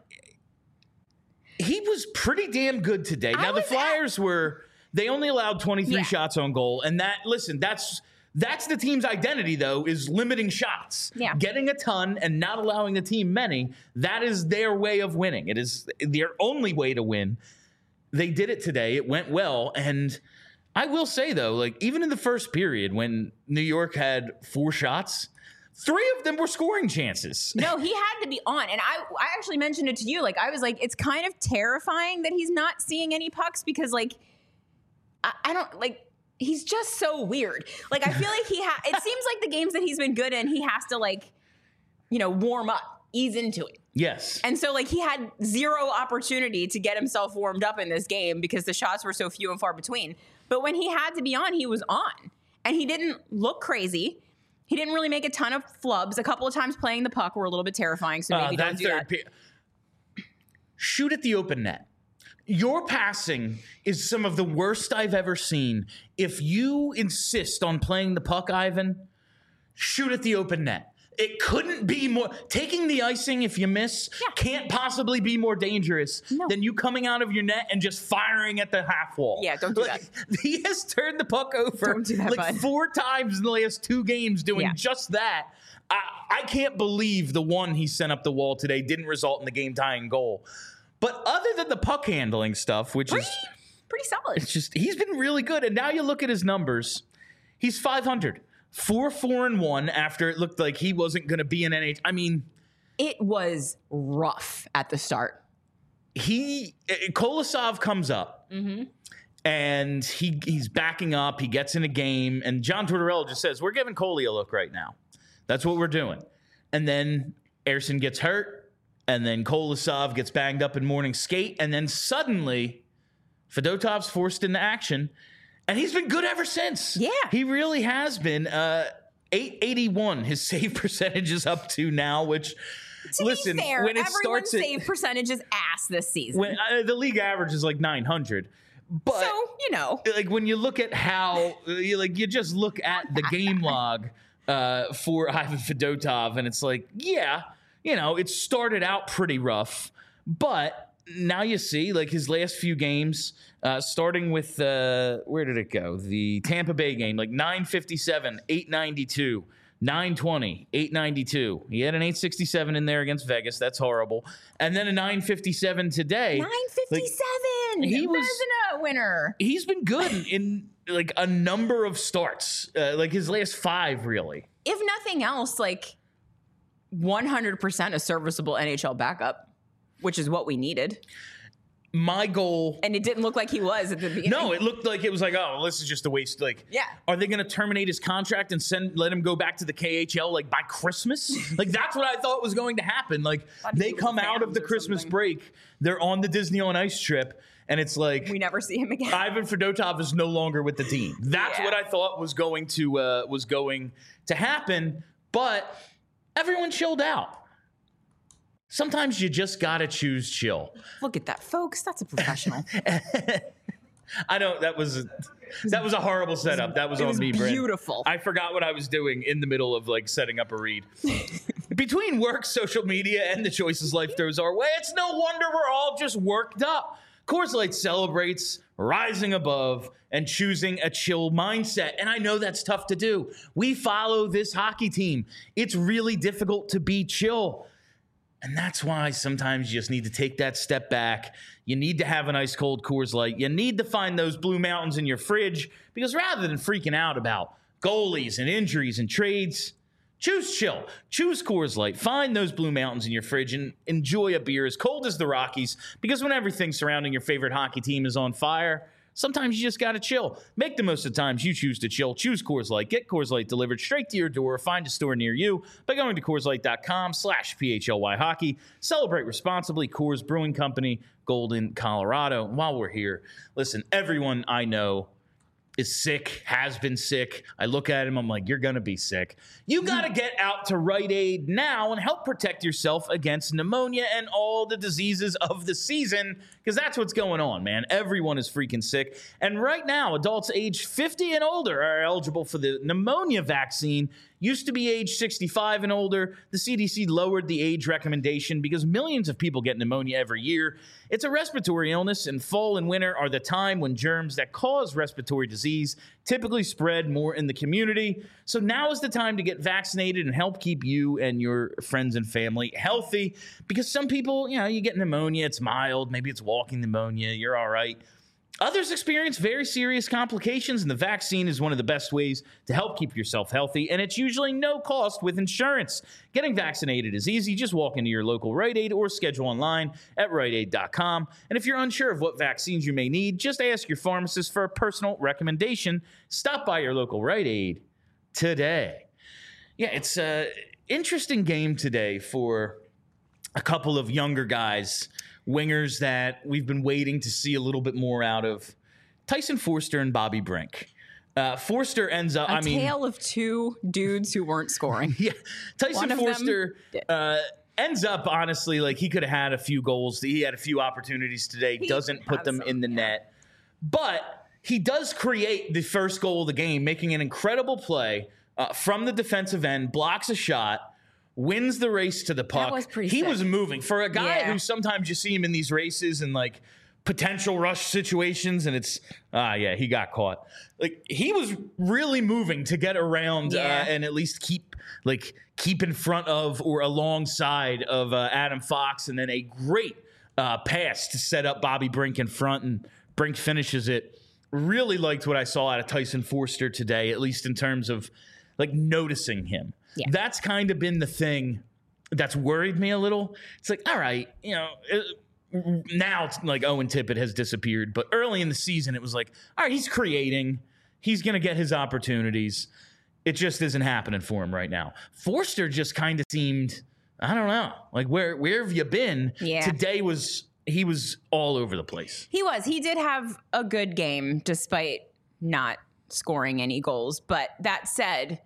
He was pretty damn good today. I Now the was at- Flyers were they only allowed twenty-three Yeah. shots on goal, and that listen, that's that's the team's identity though, is limiting shots. Yeah. Getting a ton and not allowing the team many, that is their way of winning. It is their only way to win. They did it today. It went well, and I will say though, like even in the first period when New York had four shots, three of them were scoring chances. No, he had to be on. And I I actually mentioned it to you. Like, I was like, it's kind of terrifying that he's not seeing any pucks because, like, I, I don't, like, he's just so weird. Like, I feel like he ha- it seems like the games that he's been good in, he has to, like, you know, warm up, ease into it. Yes. And so, like, he had zero opportunity to get himself warmed up in this game because the shots were so few and far between. But when he had to be on, he was on. And he didn't look crazy. He didn't really make a ton of flubs. A couple of times playing the puck were a little bit terrifying, so maybe Uh, don't do that. pe- Shoot at the open net. Your passing is some of the worst I've ever seen. If you insist on playing the puck, Ivan, shoot at the open net. It couldn't be more. Taking the icing if you miss Yeah. can't possibly be more dangerous No. than you coming out of your net and just firing at the half wall. Yeah, don't do Like, He has turned the puck over Don't do that, like bud. four times in the last two games doing Yeah. just that. I, I can't believe the one he sent up the wall today didn't result in the game-tying goal. But other than the puck handling stuff, which Pretty, is pretty solid. it's just he's been really good. And now you look at his numbers, he's five hundred. Four, four, and one after it looked like he wasn't going to be in N H L. I mean, It was rough at the start. he Kolosov comes up and he he's backing up. He gets in a game, and John Tortorella just says, "We're giving Coley a look right now. That's what we're doing." And then Ersson gets hurt, and then Kolosov gets banged up in morning skate, and then suddenly Fedotov's forced into action, and he's been good ever since. Yeah. he really has been. Uh, eight eighty-one, his save percentage is up to now, which. To Listen, be fair, when it everyone's starts at, save percentage is ass this season. when uh, the league average is like nine hundred, but so, you know. like when you look at how uh, you like you just look at the game log uh, for Ivan Fedotov, and it's like, yeah, you know, it started out pretty rough, but now you see, like, his last few games, uh, starting with, uh, where did it go? The Tampa Bay game, like nine fifty-seven, eight ninety-two, nine twenty, eight ninety-two. He had an eight sixty-seven in there against Vegas. That's horrible. And then a nine fifty-seven today. nine fifty-seven. Like, he was Vezina winner. He's been good in, like, a number of starts, uh, like his last five, really. If nothing else, like one hundred percent a serviceable N H L backup, which is what we needed. My goal, and it didn't look like he was at the beginning. No, it looked like it was like, oh, well, this is just a waste. Like, yeah, are they going to terminate his contract and send let him go back to the K H L like by Christmas? Like, that's what I thought was going to happen. Like, they come out of the Christmas something. break, they're on the Disney on Ice trip, and it's like we never see him again. Ivan Fedotov is no longer with the team. That's yeah. what I thought was going to uh, was going to happen, but everyone chilled out. Sometimes you just got to choose chill. Look at that, folks. That's a professional. I know that was that was a horrible setup. That was it on was me, Brent. Beautiful. I forgot what I was doing in the middle of like setting up a read. Between work, social media, and the choices life throws our way, it's no wonder we're all just worked up. Coors Light celebrates rising above and choosing a chill mindset. And I know that's tough to do. We follow this hockey team. It's really difficult to be chill. And that's why sometimes you just need to take that step back. You need to have an ice cold Coors Light. You need to find those Blue Mountains in your fridge, because rather than freaking out about goalies and injuries and trades, choose chill. Choose Coors Light. Find those Blue Mountains in your fridge and enjoy a beer as cold as the Rockies, because when everything surrounding your favorite hockey team is on fire, sometimes you just got to chill. Make the most of the times you choose to chill. Choose Coors Light. Get Coors Light delivered straight to your door. Find a store near you by going to CoorsLight.com slash PHLY hockey. Celebrate responsibly. Coors Brewing Company, Golden, Colorado. While we're here, listen, everyone I know is sick, has been sick. I look at him, I'm like, you're going to be sick. You got to get out to Rite Aid now and help protect yourself against pneumonia and all the diseases of the season, because that's what's going on, man. Everyone is freaking sick. And right now, adults age fifty and older are eligible for the pneumonia vaccine. Used to be age sixty-five and older. The C D C lowered the age recommendation because millions of people get pneumonia every year. It's a respiratory illness, and fall and winter are the time when germs that cause respiratory disease typically spread more in the community. So now is the time to get vaccinated and help keep you and your friends and family healthy, because some people, you know, you get pneumonia, it's mild, maybe it's walking pneumonia, you're all right. Others experience very serious complications, and the vaccine is one of the best ways to help keep yourself healthy, and it's usually no cost with insurance. Getting vaccinated is easy. Just walk into your local Rite Aid or schedule online at rite aid dot com. And if you're unsure of what vaccines you may need, just ask your pharmacist for a personal recommendation. Stop by your local Rite Aid today. Yeah, it's an interesting game today for a couple of younger guys, wingers that we've been waiting to see a little bit more out of. Tyson Foerster and Bobby Brink. Uh, Foerster ends up, a I mean... A tale of two dudes who weren't scoring. Yeah. Tyson Foerster uh, ends up, honestly, like he could have had a few goals. He had a few opportunities today. He doesn't put them some, in the yeah. net. But he does create the first goal of the game, making an incredible play uh, from the defensive end, blocks a shot, wins the race to the puck. That was pretty he sick. was moving. For a guy yeah. who sometimes you see him in these races and like potential rush situations, and it's, ah, yeah, he got caught. Like, he was really moving to get around yeah. uh, and at least keep, like, keep in front of or alongside of uh, Adam Fox, and then a great uh, pass to set up Bobby Brink in front, and Brink finishes it. Really liked what I saw out of Tyson Foerster today, at least in terms of, like, noticing him. Yeah. That's kind of been the thing that's worried me a little. It's like, all right, you know, it, now it's like Owen Tippett has disappeared, but early in the season it was like, all right, he's creating, he's going to get his opportunities. It just isn't happening for him right now. Foerster just kind of seemed, I don't know, like where where have you been? Yeah. Today was, he was all over the place. He was. He did have a good game despite not scoring any goals. But that said,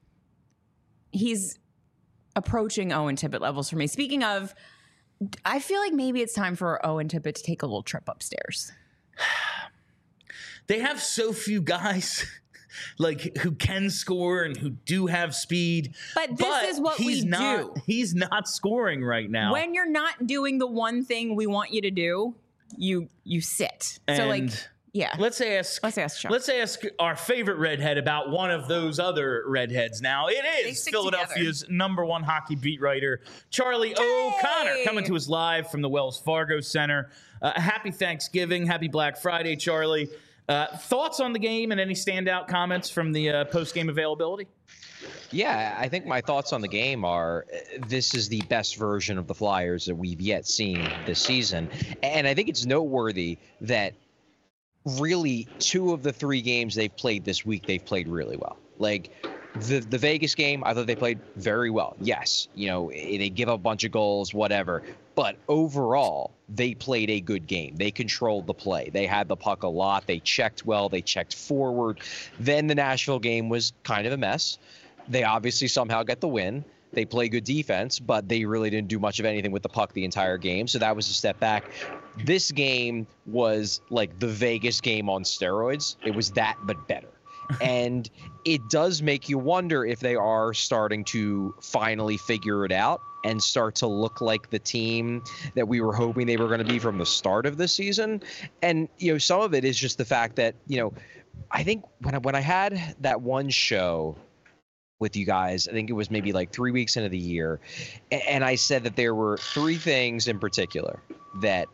he's approaching Owen Tippett levels for me. Speaking of, I feel like maybe it's time for Owen Tippett to take a little trip upstairs. They have so few guys like who can score and who do have speed. But this but is what he's we not, do. He's not scoring right now. When you're not doing the one thing we want you to do, you you sit. And so like, yeah. Let's ask. Let's ask. Sean. Let's ask our favorite redhead about one of those other redheads. Now it is Philadelphia's together. number one hockey beat writer, Charlie O'Connor, coming to us live from the Wells Fargo Center. Uh, happy Thanksgiving, happy Black Friday, Charlie. Uh, thoughts on the game and any standout comments from the uh, post-game availability? Yeah, I think my thoughts on the game are uh, this is the best version of the Flyers that we've yet seen this season. And I think it's noteworthy that really two of the three games they've played this week, they've played really well. Like the the Vegas game, I thought they played very well. Yes, you know, they give up a bunch of goals, whatever. But overall, they played a good game. They controlled the play. They had the puck a lot. They checked well. They checked forward. Then the Nashville game was kind of a mess. They obviously somehow get the win. They play good defense, but they really didn't do much of anything with the puck the entire game. So that was a step back. This game was like the Vegas game on steroids. It was that, but better. And it does make you wonder if they are starting to finally figure it out and start to look like the team that we were hoping they were going to be from the start of the season. And, you know, some of it is just the fact that, you know, I think when I, when I had that one show with you guys, I think it was maybe like three weeks into the year, and I said that there were three things in particular that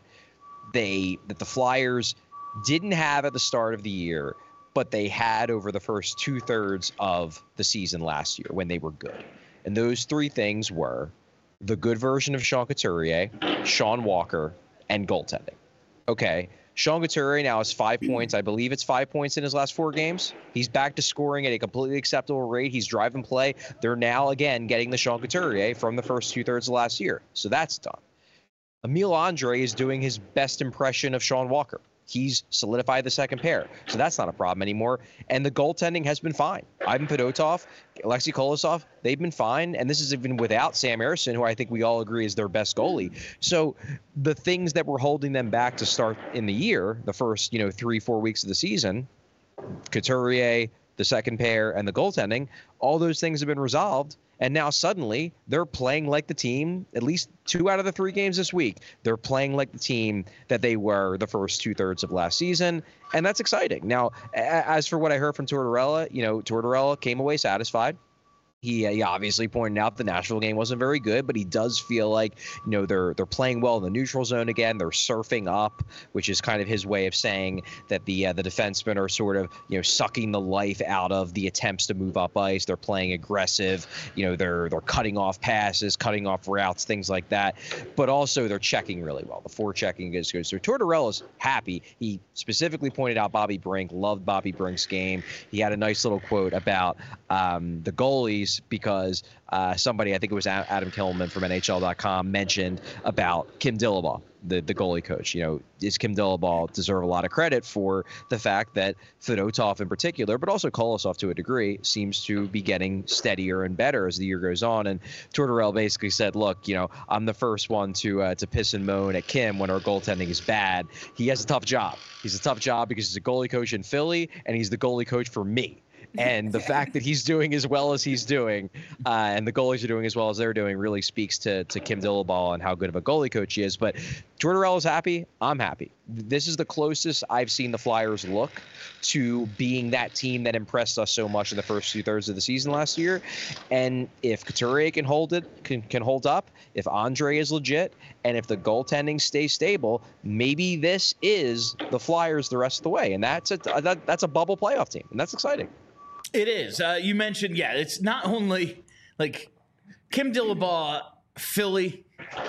they that the Flyers didn't have at the start of the year, but they had over the first two thirds of the season last year when they were good. And those three things were the good version of Sean Couturier, Sean Walker, and goaltending. Okay. Sean Couturier now has five points. I believe it's five points in his last four games. He's back to scoring at a completely acceptable rate. He's driving play. They're now, again, getting the Sean Couturier from the first two-thirds of last year. So that's done. Emil Andre is doing his best impression of Sean Walker. He's solidified the second pair. So that's not a problem anymore. And the goaltending has been fine. Ivan Fedotov, Alexei Kolosov, they've been fine. And this is even without Sam Ersson, who I think we all agree is their best goalie. So the things that were holding them back to start in the year, the first, you know, three, four weeks of the season, Couturier, the second pair, and the goaltending, all those things have been resolved. And now suddenly they're playing like the team, at least two out of the three games this week. They're playing like the team that they were the first two thirds of last season. And that's exciting. Now, as for what I heard from Tortorella, you know, Tortorella came away satisfied. He, uh, he obviously pointed out the Nashville game wasn't very good, but he does feel like, you know, they're they're playing well in the neutral zone again. They're surfing up, which is kind of his way of saying that the uh, the defensemen are sort of, you know, sucking the life out of the attempts to move up ice. They're playing aggressive. You know, they're they're cutting off passes, cutting off routes, things like that. But also they're checking really well. The forechecking is good. So Tortorella's happy. He specifically pointed out Bobby Brink, loved Bobby Brink's game. He had a nice little quote about um, the goalies, because uh, somebody, I think it was Adam Killman from N H L dot com, mentioned about Kim Dillabaugh, the, the goalie coach. You know, is Kim Dillabaugh deserve a lot of credit for the fact that Fedotov in particular, but also Kolosov to a degree, seems to be getting steadier and better as the year goes on. And Tortorella basically said, look, you know, I'm the first one to uh, to piss and moan at Kim when our goaltending is bad. He has a tough job. He's a tough job because he's a goalie coach in Philly, and he's the goalie coach for me. And the fact that he's doing as well as he's doing, uh, and the goalies are doing as well as they're doing, really speaks to to Kim Dillabaugh and how good of a goalie coach he is. But Tortorella's happy. I'm happy. This is the closest I've seen the Flyers look to being that team that impressed us so much in the first two thirds of the season last year. And if Couturier can hold it, can, can hold up, if Andre is legit, and if the goaltending stays stable, maybe this is the Flyers the rest of the way. And that's a, that, that's a bubble playoff team, and that's exciting. It is. Uh, you mentioned, yeah, it's not only like Kim Dillabaugh, Philly,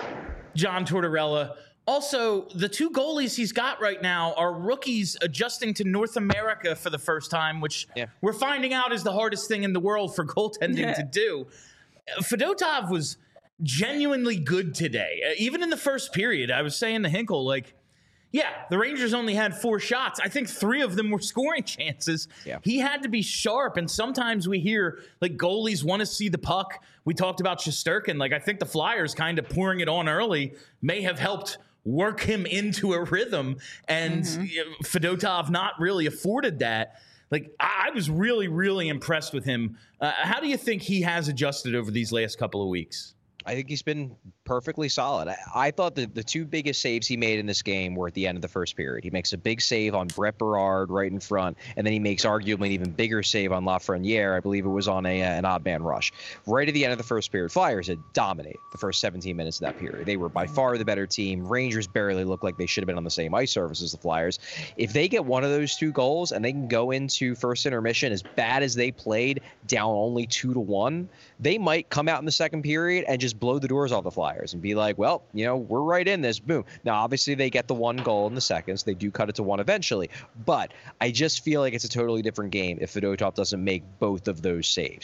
John Tortorella. Also, the two goalies he's got right now are rookies adjusting to North America for the first time, which yeah. we're finding out is the hardest thing in the world for goaltending yeah. to do. Fedotov was genuinely good today. Uh, even in the first period, I was saying to Hinkle, like, yeah, the Rangers only had four shots. I think three of them were scoring chances. Yeah. He had to be sharp, and sometimes we hear, like, goalies want to see the puck. We talked about Shesterkin. Like, I think the Flyers kind of pouring it on early may have helped work him into a rhythm, and mm-hmm. Fedotov not really afforded that. Like, I, I was really, really impressed with him. Uh, how do you think he has adjusted over these last couple of weeks? I think he's been perfectly solid. I, I thought that the two biggest saves he made in this game were at the end of the first period. He makes a big save on Brett Berard right in front, and then he makes arguably an even bigger save on Lafreniere. I believe it was on a an odd man rush. Right at the end of the first period, Flyers had dominated the first seventeen minutes of that period. They were by far the better team. Rangers barely looked like they should have been on the same ice surface as the Flyers. If they get one of those two goals and they can go into first intermission as bad as they played, down only two to one, they might come out in the second period and just blow the doors off the Flyers and be like, well, you know, we're right in this. Boom. Now, obviously, they get the one goal in the second, so they do cut it to one eventually. But I just feel like it's a totally different game if Fedotov doesn't make both of those saves.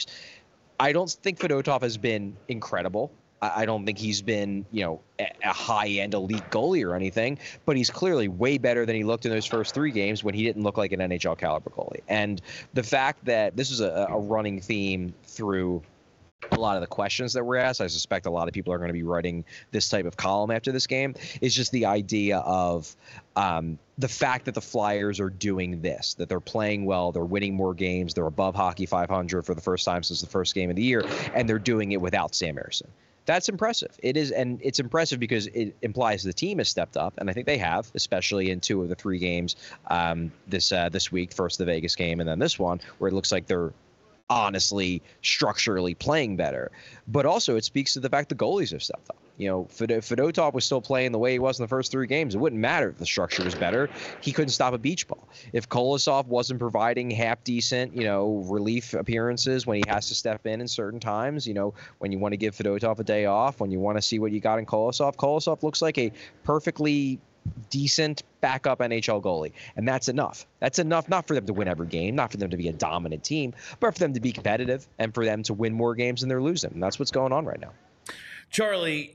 I don't think Fedotov has been incredible. I don't think he's been, you know, a high-end elite goalie or anything, but he's clearly way better than he looked in those first three games when he didn't look like an N H L caliber goalie. And the fact that this is a, a running theme through a lot of the questions that were asked, I suspect a lot of people are going to be writing this type of column after this game, is just the idea of um, the fact that the Flyers are doing this, that they're playing well, they're winning more games, they're above Hockey five hundred for the first time since the first game of the year, and they're doing it without Sam Ersson. That's impressive. It is, and it's impressive because it implies the team has stepped up, and I think they have, especially in two of the three games um, this uh, this week. First the Vegas game, and then this one, where it looks like they're honestly structurally playing better. But also it speaks to the fact the goalies have stepped up. You know, Fedotov was still playing the way he was in the first three games. It wouldn't matter if the structure was better. He couldn't stop a beach ball. If Kolosov wasn't providing half decent, you know, relief appearances when he has to step in in certain times, you know, when you want to give Fedotov a day off, when you want to see what you got in Kolosov, Kolosov looks like a perfectly decent backup N H L goalie, and that's enough. That's enough not for them to win every game, not for them to be a dominant team, but for them to be competitive and for them to win more games than they're losing. And that's what's going on right now. Charlie,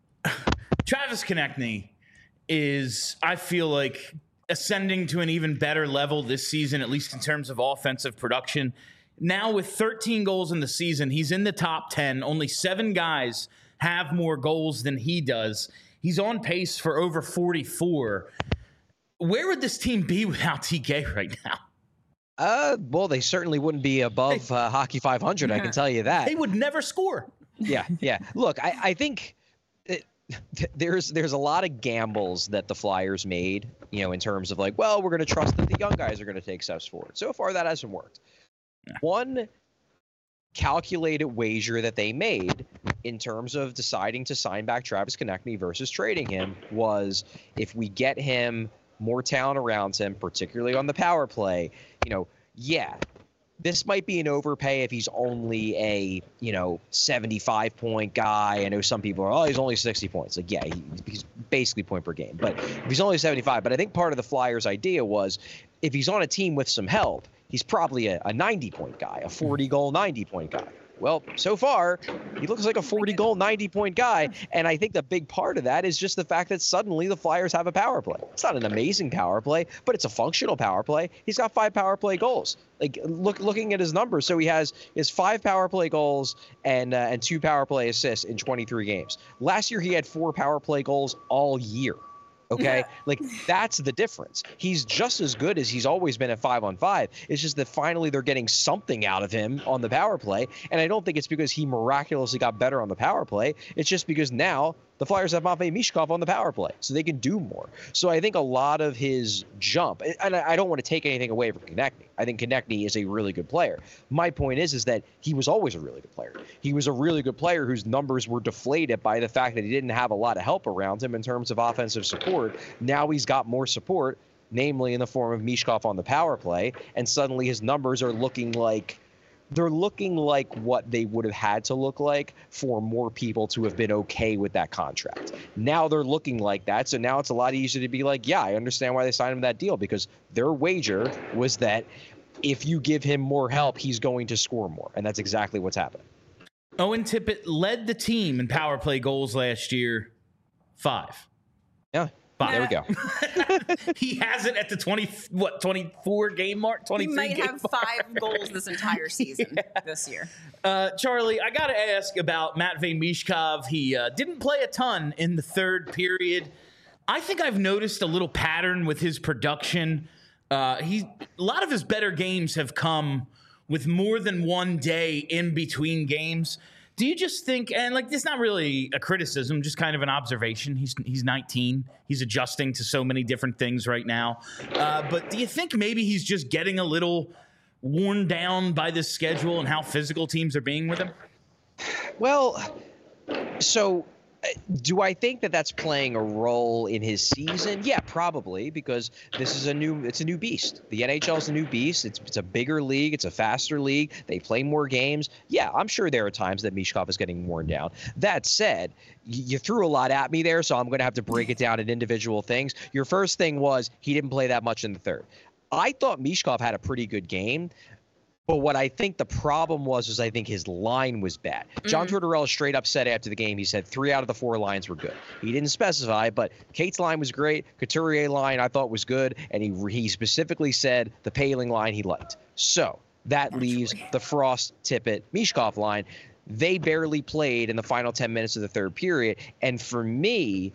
Travis Konecny is, I feel like, ascending to an even better level this season, at least in terms of offensive production. Now with thirteen goals in the season, he's in the top ten. Only seven guys have more goals than he does. He's on pace for over forty-four. Where would this team be without T K right now? Uh, well, they certainly wouldn't be above uh, Hockey five hundred, I can tell you that. They would never score. Yeah, yeah. Look, I, I think it, there's there's a lot of gambles that the Flyers made, you know, in terms of like, well, we're going to trust that the young guys are going to take steps forward. So far, that hasn't worked. Yeah. One calculated wager that they made in terms of deciding to sign back Travis Konecny versus trading him was, if we get him more talent around him, particularly on the power play, you know, yeah, this might be an overpay if he's only a, you know, seventy-five point guy. I know some people are, oh, he's only sixty points. Like, yeah, he, he's basically point per game. But if he's only seventy-five, but I think part of the Flyers' idea was if he's on a team with some help, he's probably a, a ninety point guy, a forty goal, ninety point guy. Well, so far, he looks like a forty goal, ninety point guy. And I think the big part of that is just the fact that suddenly the Flyers have a power play. It's not an amazing power play, but it's a functional power play. He's got five power play goals. Like, look, looking at his numbers, so he has his five power play goals and uh, and two power play assists in twenty-three games. Last year, he had four power play goals all year. Okay, like that's the difference. He's just as good as he's always been at five on five. It's just that finally they're getting something out of him on the power play. And I don't think it's because he miraculously got better on the power play. It's just because now the Flyers have Matvei Michkov on the power play, so they can do more. So I think a lot of his jump, and I don't want to take anything away from Konecny. I think Konecny is a really good player. My point is, is that he was always a really good player. He was a really good player whose numbers were deflated by the fact that he didn't have a lot of help around him in terms of offensive support. Now he's got more support, namely in the form of Michkov on the power play, and suddenly his numbers are looking like they're looking like what they would have had to look like for more people to have been okay with that contract. Now they're looking like that, so now it's a lot easier to be like, yeah, I understand why they signed him that deal, because their wager was that if you give him more help, he's going to score more, and that's exactly what's happening. Owen Tippett led the team in power play goals last year, five. Yeah. Five. There we go. He has it at the twenty, what, twenty-four game mark? twenty-three he might game have mark. five goals this entire season yeah. this year. Uh, Charlie, I got to ask about Matvei Michkov. He uh, didn't play a ton in the third period. I think I've noticed a little pattern with his production. Uh, he a lot of his better games have come with more than one day in between games. Do you just think, and like, it's not really a criticism, just kind of an observation. He's he's nineteen. He's adjusting to so many different things right now. Uh, but do you think maybe he's just getting a little worn down by this schedule and how physical teams are being with him? Well, so do I think that that's playing a role in his season? Yeah, probably, because this is a new it's a new beast. The N H L is a new beast. It's it's a bigger league. It's a faster league. They play more games. Yeah, I'm sure there are times that Michkov is getting worn down. That said, you threw a lot at me there, so I'm going to have to break it down in individual things. Your first thing was he didn't play that much in the third. I thought Michkov had a pretty good game. But what I think the problem was, is I think his line was bad. John Mm. Tortorella straight up said after the game, he said three out of the four lines were good. He didn't specify, but Cates' line was great. Couturier line I thought was good. And he he specifically said the Poehling line he liked. So that leaves the Frost, Tippett, Michkov line. They barely played in the final ten minutes of the third period. And for me,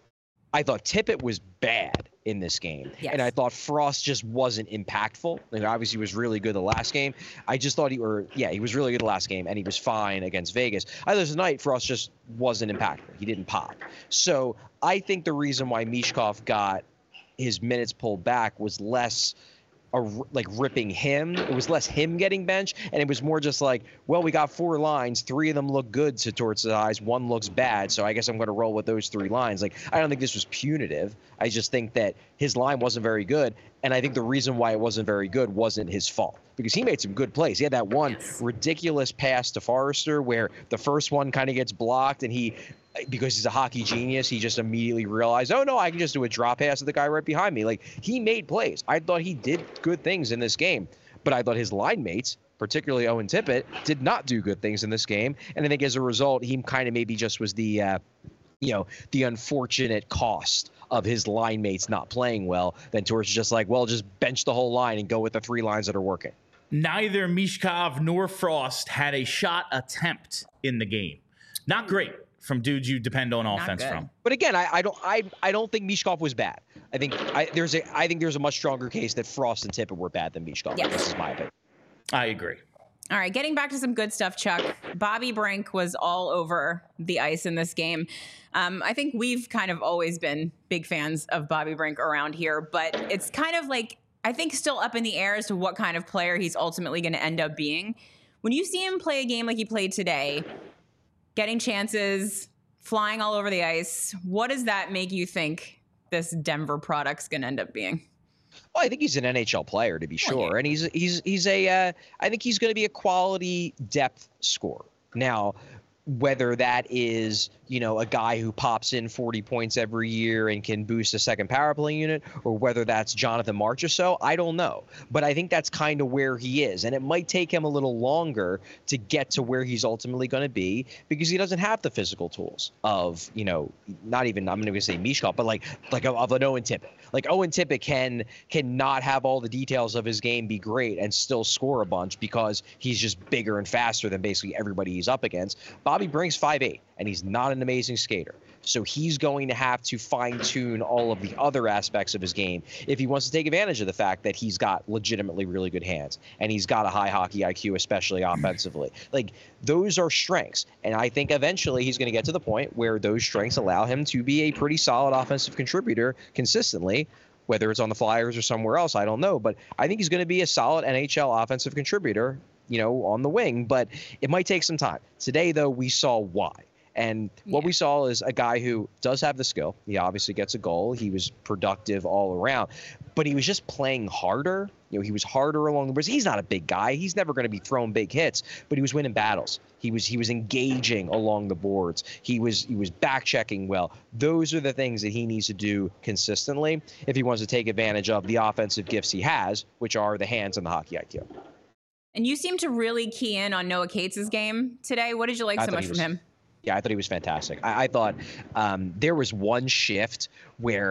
I thought Tippett was bad in this game. Yes. And I thought Frost just wasn't impactful. Like, obviously, he was really good the last game. I just thought he or yeah, he was really good the last game, and he was fine against Vegas. I thought tonight, Frost just wasn't impactful. He didn't pop. So I think the reason why Michkov got his minutes pulled back was less a, like ripping him. It was less him getting benched, and it was more just like, well, we got four lines. Three of them look good to Torts' eyes. One looks bad, so I guess I'm going to roll with those three lines. Like, I don't think this was punitive. I just think that his line wasn't very good, and I think the reason why it wasn't very good wasn't his fault, because he made some good plays. He had that one Yes. ridiculous pass to Forrester where the first one kind of gets blocked, and he, because he's a hockey genius, he just immediately realized, oh, no, I can just do a drop pass to the guy right behind me. Like, he made plays. I thought he did good things in this game, but I thought his line mates, particularly Owen Tippett, did not do good things in this game. And I think as a result, he kind of maybe just was the, uh, you know, the unfortunate cost of his line mates not playing well. Then Torts just like, well, just bench the whole line and go with the three lines that are working. Neither Michkov nor Frost had a shot attempt in the game. Not great from dudes you depend on offense good. from. But again, I, I don't I I don't think Michkov was bad. I think I, there's a I think there's a much stronger case that Frost and Tippett were bad than Michkov. Yes. This is my opinion. I agree. All right, getting back to some good stuff, Chuck. Bobby Brink was all over the ice in this game. Um, I think we've kind of always been big fans of Bobby Brink around here, but it's kind of like, I think, still up in the air as to what kind of player he's ultimately going to end up being. When you see him play a game like he played today, getting chances, flying all over the ice, what does that make you think this Denver product's going to end up being? Well, I think he's an N H L player, to be sure, Well, yeah. and he's he's he's a. Uh, I think he's going to be a quality depth scorer. Now, whether that is, you know, a guy who pops in forty points every year and can boost a second power play unit, or whether that's Jonathan March or so, I don't know. But I think that's kind of where he is. And it might take him a little longer to get to where he's ultimately going to be, because he doesn't have the physical tools of, you know, not even, I'm going to say Michkov, but like like of an Owen Tippett. Like Owen Tippett can cannot have all the details of his game be great and still score a bunch because he's just bigger and faster than basically everybody he's up against. Bobby Brink's five eight, and he's not an amazing skater. So he's going to have to fine-tune all of the other aspects of his game if he wants to take advantage of the fact that he's got legitimately really good hands and he's got a high hockey I Q, especially offensively. Like, those are strengths. And I think eventually he's going to get to the point where those strengths allow him to be a pretty solid offensive contributor consistently. Whether it's on the Flyers or somewhere else, I don't know. But I think he's going to be a solid N H L offensive contributor, you know, on the wing. But it might take some time. Today, though, we saw why. And what Yeah. we saw is a guy who does have the skill. He obviously gets a goal. He was productive all around. But he was just playing harder. You know, he was harder along the boards. He's not a big guy. He's never going to be throwing big hits. But he was winning battles. He was he was engaging along the boards. He was he was back checking well. Those are the things that he needs to do consistently if he wants to take advantage of the offensive gifts he has, which are the hands and the hockey I Q. And you seem to really key in on Noah Cates' game today. What did you like I so thought much he from was- him? Yeah, I thought he was fantastic. I, I thought um, there was one shift where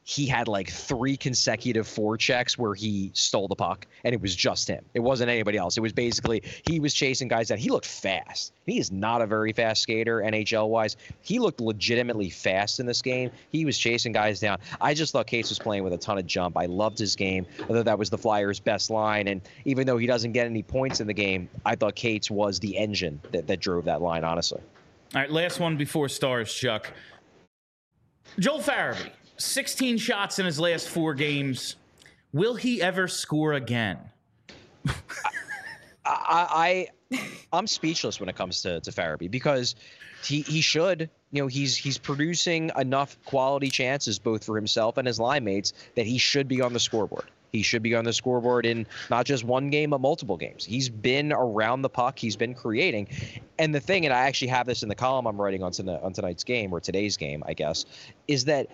he had like three consecutive forechecks where he stole the puck, and it was just him. It wasn't anybody else. It was basically he was chasing guys down. He looked fast. He is not a very fast skater, N H L-wise. He looked legitimately fast in this game. He was chasing guys down. I just thought Cates was playing with a ton of jump. I loved his game. I thought that was the Flyers' best line, and even though he doesn't get any points in the game, I thought Cates was the engine that, that drove that line, honestly. All right, last one before stars, Chuck. Joel Farabee. sixteen shots in his last four games. Will he ever score again? I, I I'm speechless when it comes to, to Farabee because he, he should. You know, he's he's producing enough quality chances both for himself and his line mates that he should be on the scoreboard. He should be on the scoreboard in not just one game, but multiple games. He's been around the puck. He's been creating. And the thing, and I actually have this in the column I'm writing on, tonight, on tonight's game, or today's game, I guess, is that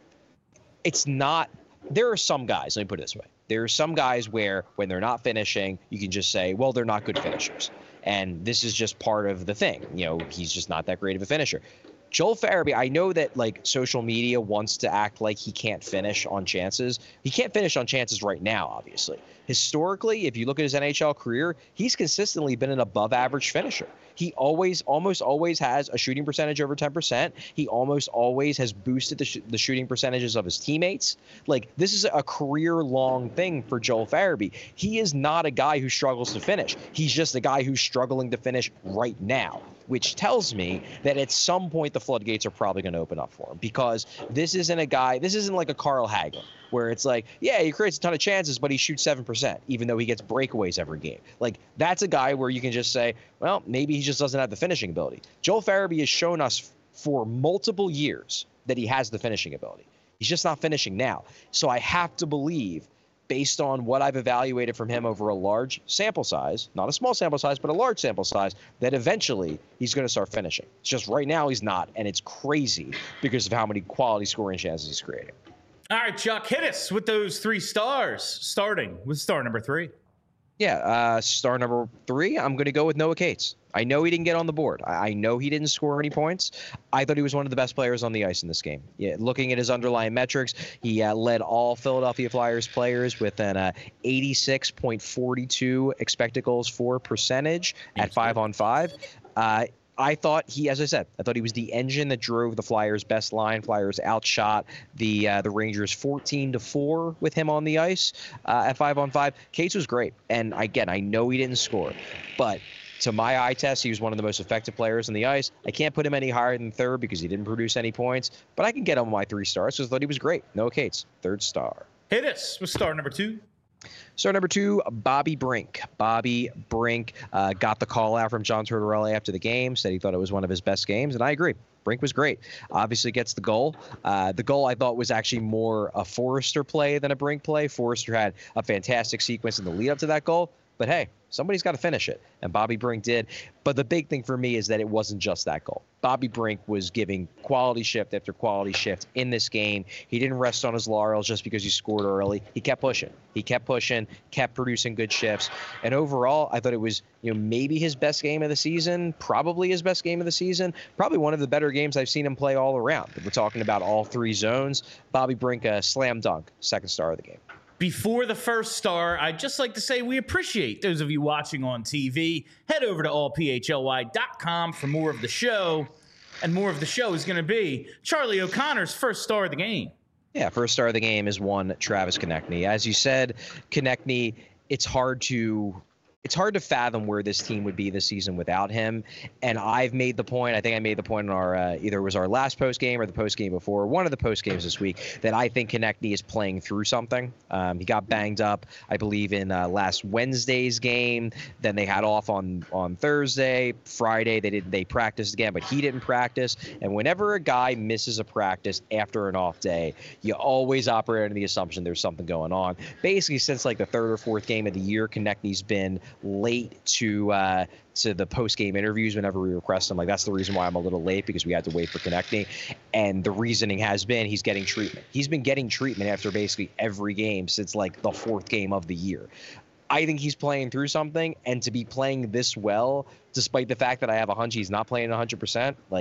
it's not – there are some guys, let me put it this way. There are some guys where when they're not finishing, you can just say, well, they're not good finishers. And this is just part of the thing. You know, he's just not that great of a finisher. Joel Farabee, I know that like social media wants to act like he can't finish on chances. He can't finish on chances right now, obviously. Historically, if you look at his N H L career, he's consistently been an above average finisher. He always, almost always has a shooting percentage over ten percent. He almost always has boosted the, sh- the shooting percentages of his teammates. Like, this is a career-long thing for Joel Farabee. He is not a guy who struggles to finish. He's just a guy who's struggling to finish right now, which tells me that at some point the floodgates are probably going to open up for him, because this isn't a guy, this isn't like a Carl Hagelin, where it's like, yeah, he creates a ton of chances, but he shoots seven percent, even though he gets breakaways every game. Like, that's a guy where you can just say, well, maybe he just doesn't have the finishing ability. Joel Farabee has shown us for multiple years that he has the finishing ability. He's just not finishing now. So I have to believe, based on what I've evaluated from him over a large sample size, not a small sample size, but a large sample size, that eventually he's going to start finishing. It's just right now he's not, and it's crazy because of how many quality scoring chances he's creating. All right, Chuck, hit us with those three stars, starting with star number three. Yeah, uh, star number three, I'm going to go with Noah Cates. I know he didn't get on the board. I, I know he didn't score any points. I thought he was one of the best players on the ice in this game. Yeah, looking at his underlying metrics, he uh, led all Philadelphia Flyers players with an uh, eighty-six point four two expected goals for percentage at five on five. Uh, I thought he, as I said, I thought he was the engine that drove the Flyers' best line. Flyers outshot the uh, the Rangers fourteen to four with him on the ice uh, at five on five. Cates was great, and again, I know he didn't score, but to my eye test, he was one of the most effective players on the ice. I can't put him any higher than third because he didn't produce any points, but I can get him my three stars because I thought he was great. Noah Cates, third star. Hit us with star number two. Star number two, Bobby Brink. Bobby Brink uh, got the call out from John Tortorella after the game, said he thought it was one of his best games, and I agree. Brink was great. Obviously gets the goal. Uh, the goal I thought was actually more a Forrester play than a Brink play. Forrester had a fantastic sequence in the lead up to that goal, but hey, somebody's got to finish it, and Bobby Brink did. But the big thing for me is that it wasn't just that goal. Bobby Brink was giving quality shift after quality shift in this game. He didn't rest on his laurels just because he scored early. He kept pushing. He kept pushing, kept producing good shifts. And overall, I thought it was, you know, maybe his best game of the season, probably his best game of the season, probably one of the better games I've seen him play all around. If we're talking about all three zones, Bobby Brink, a slam dunk, second star of the game. Before the first star, I'd just like to say we appreciate those of you watching on T V. Head over to all p h l y dot com for more of the show. And more of the show is going to be Charlie O'Connor's first star of the game. Yeah, first star of the game is one Travis Konechny. As you said, Konechny, it's hard to... It's hard to fathom where this team would be this season without him. And I've made the point, I think I made the point in our, uh, either it was our last post game or the post game before, one of the post games this week, that I think Konechny is playing through something. Um, he got banged up, I believe, in uh, last Wednesday's game. Then they had off on, on Thursday. Friday, they did they practiced again, but he didn't practice. And whenever a guy misses a practice after an off day, you always operate under the assumption there's something going on. Basically, since like the third or fourth game of the year, Konechny's been late to uh, to the post-game interviews whenever we request them. Like, that's the reason why I'm a little late, because we had to wait for Konechny. And the reasoning has been he's getting treatment. He's been getting treatment after basically every game since like the fourth game of the year. I think he's playing through something, and to be playing this well, despite the fact that I have a hunch he's not playing one hundred percent, like,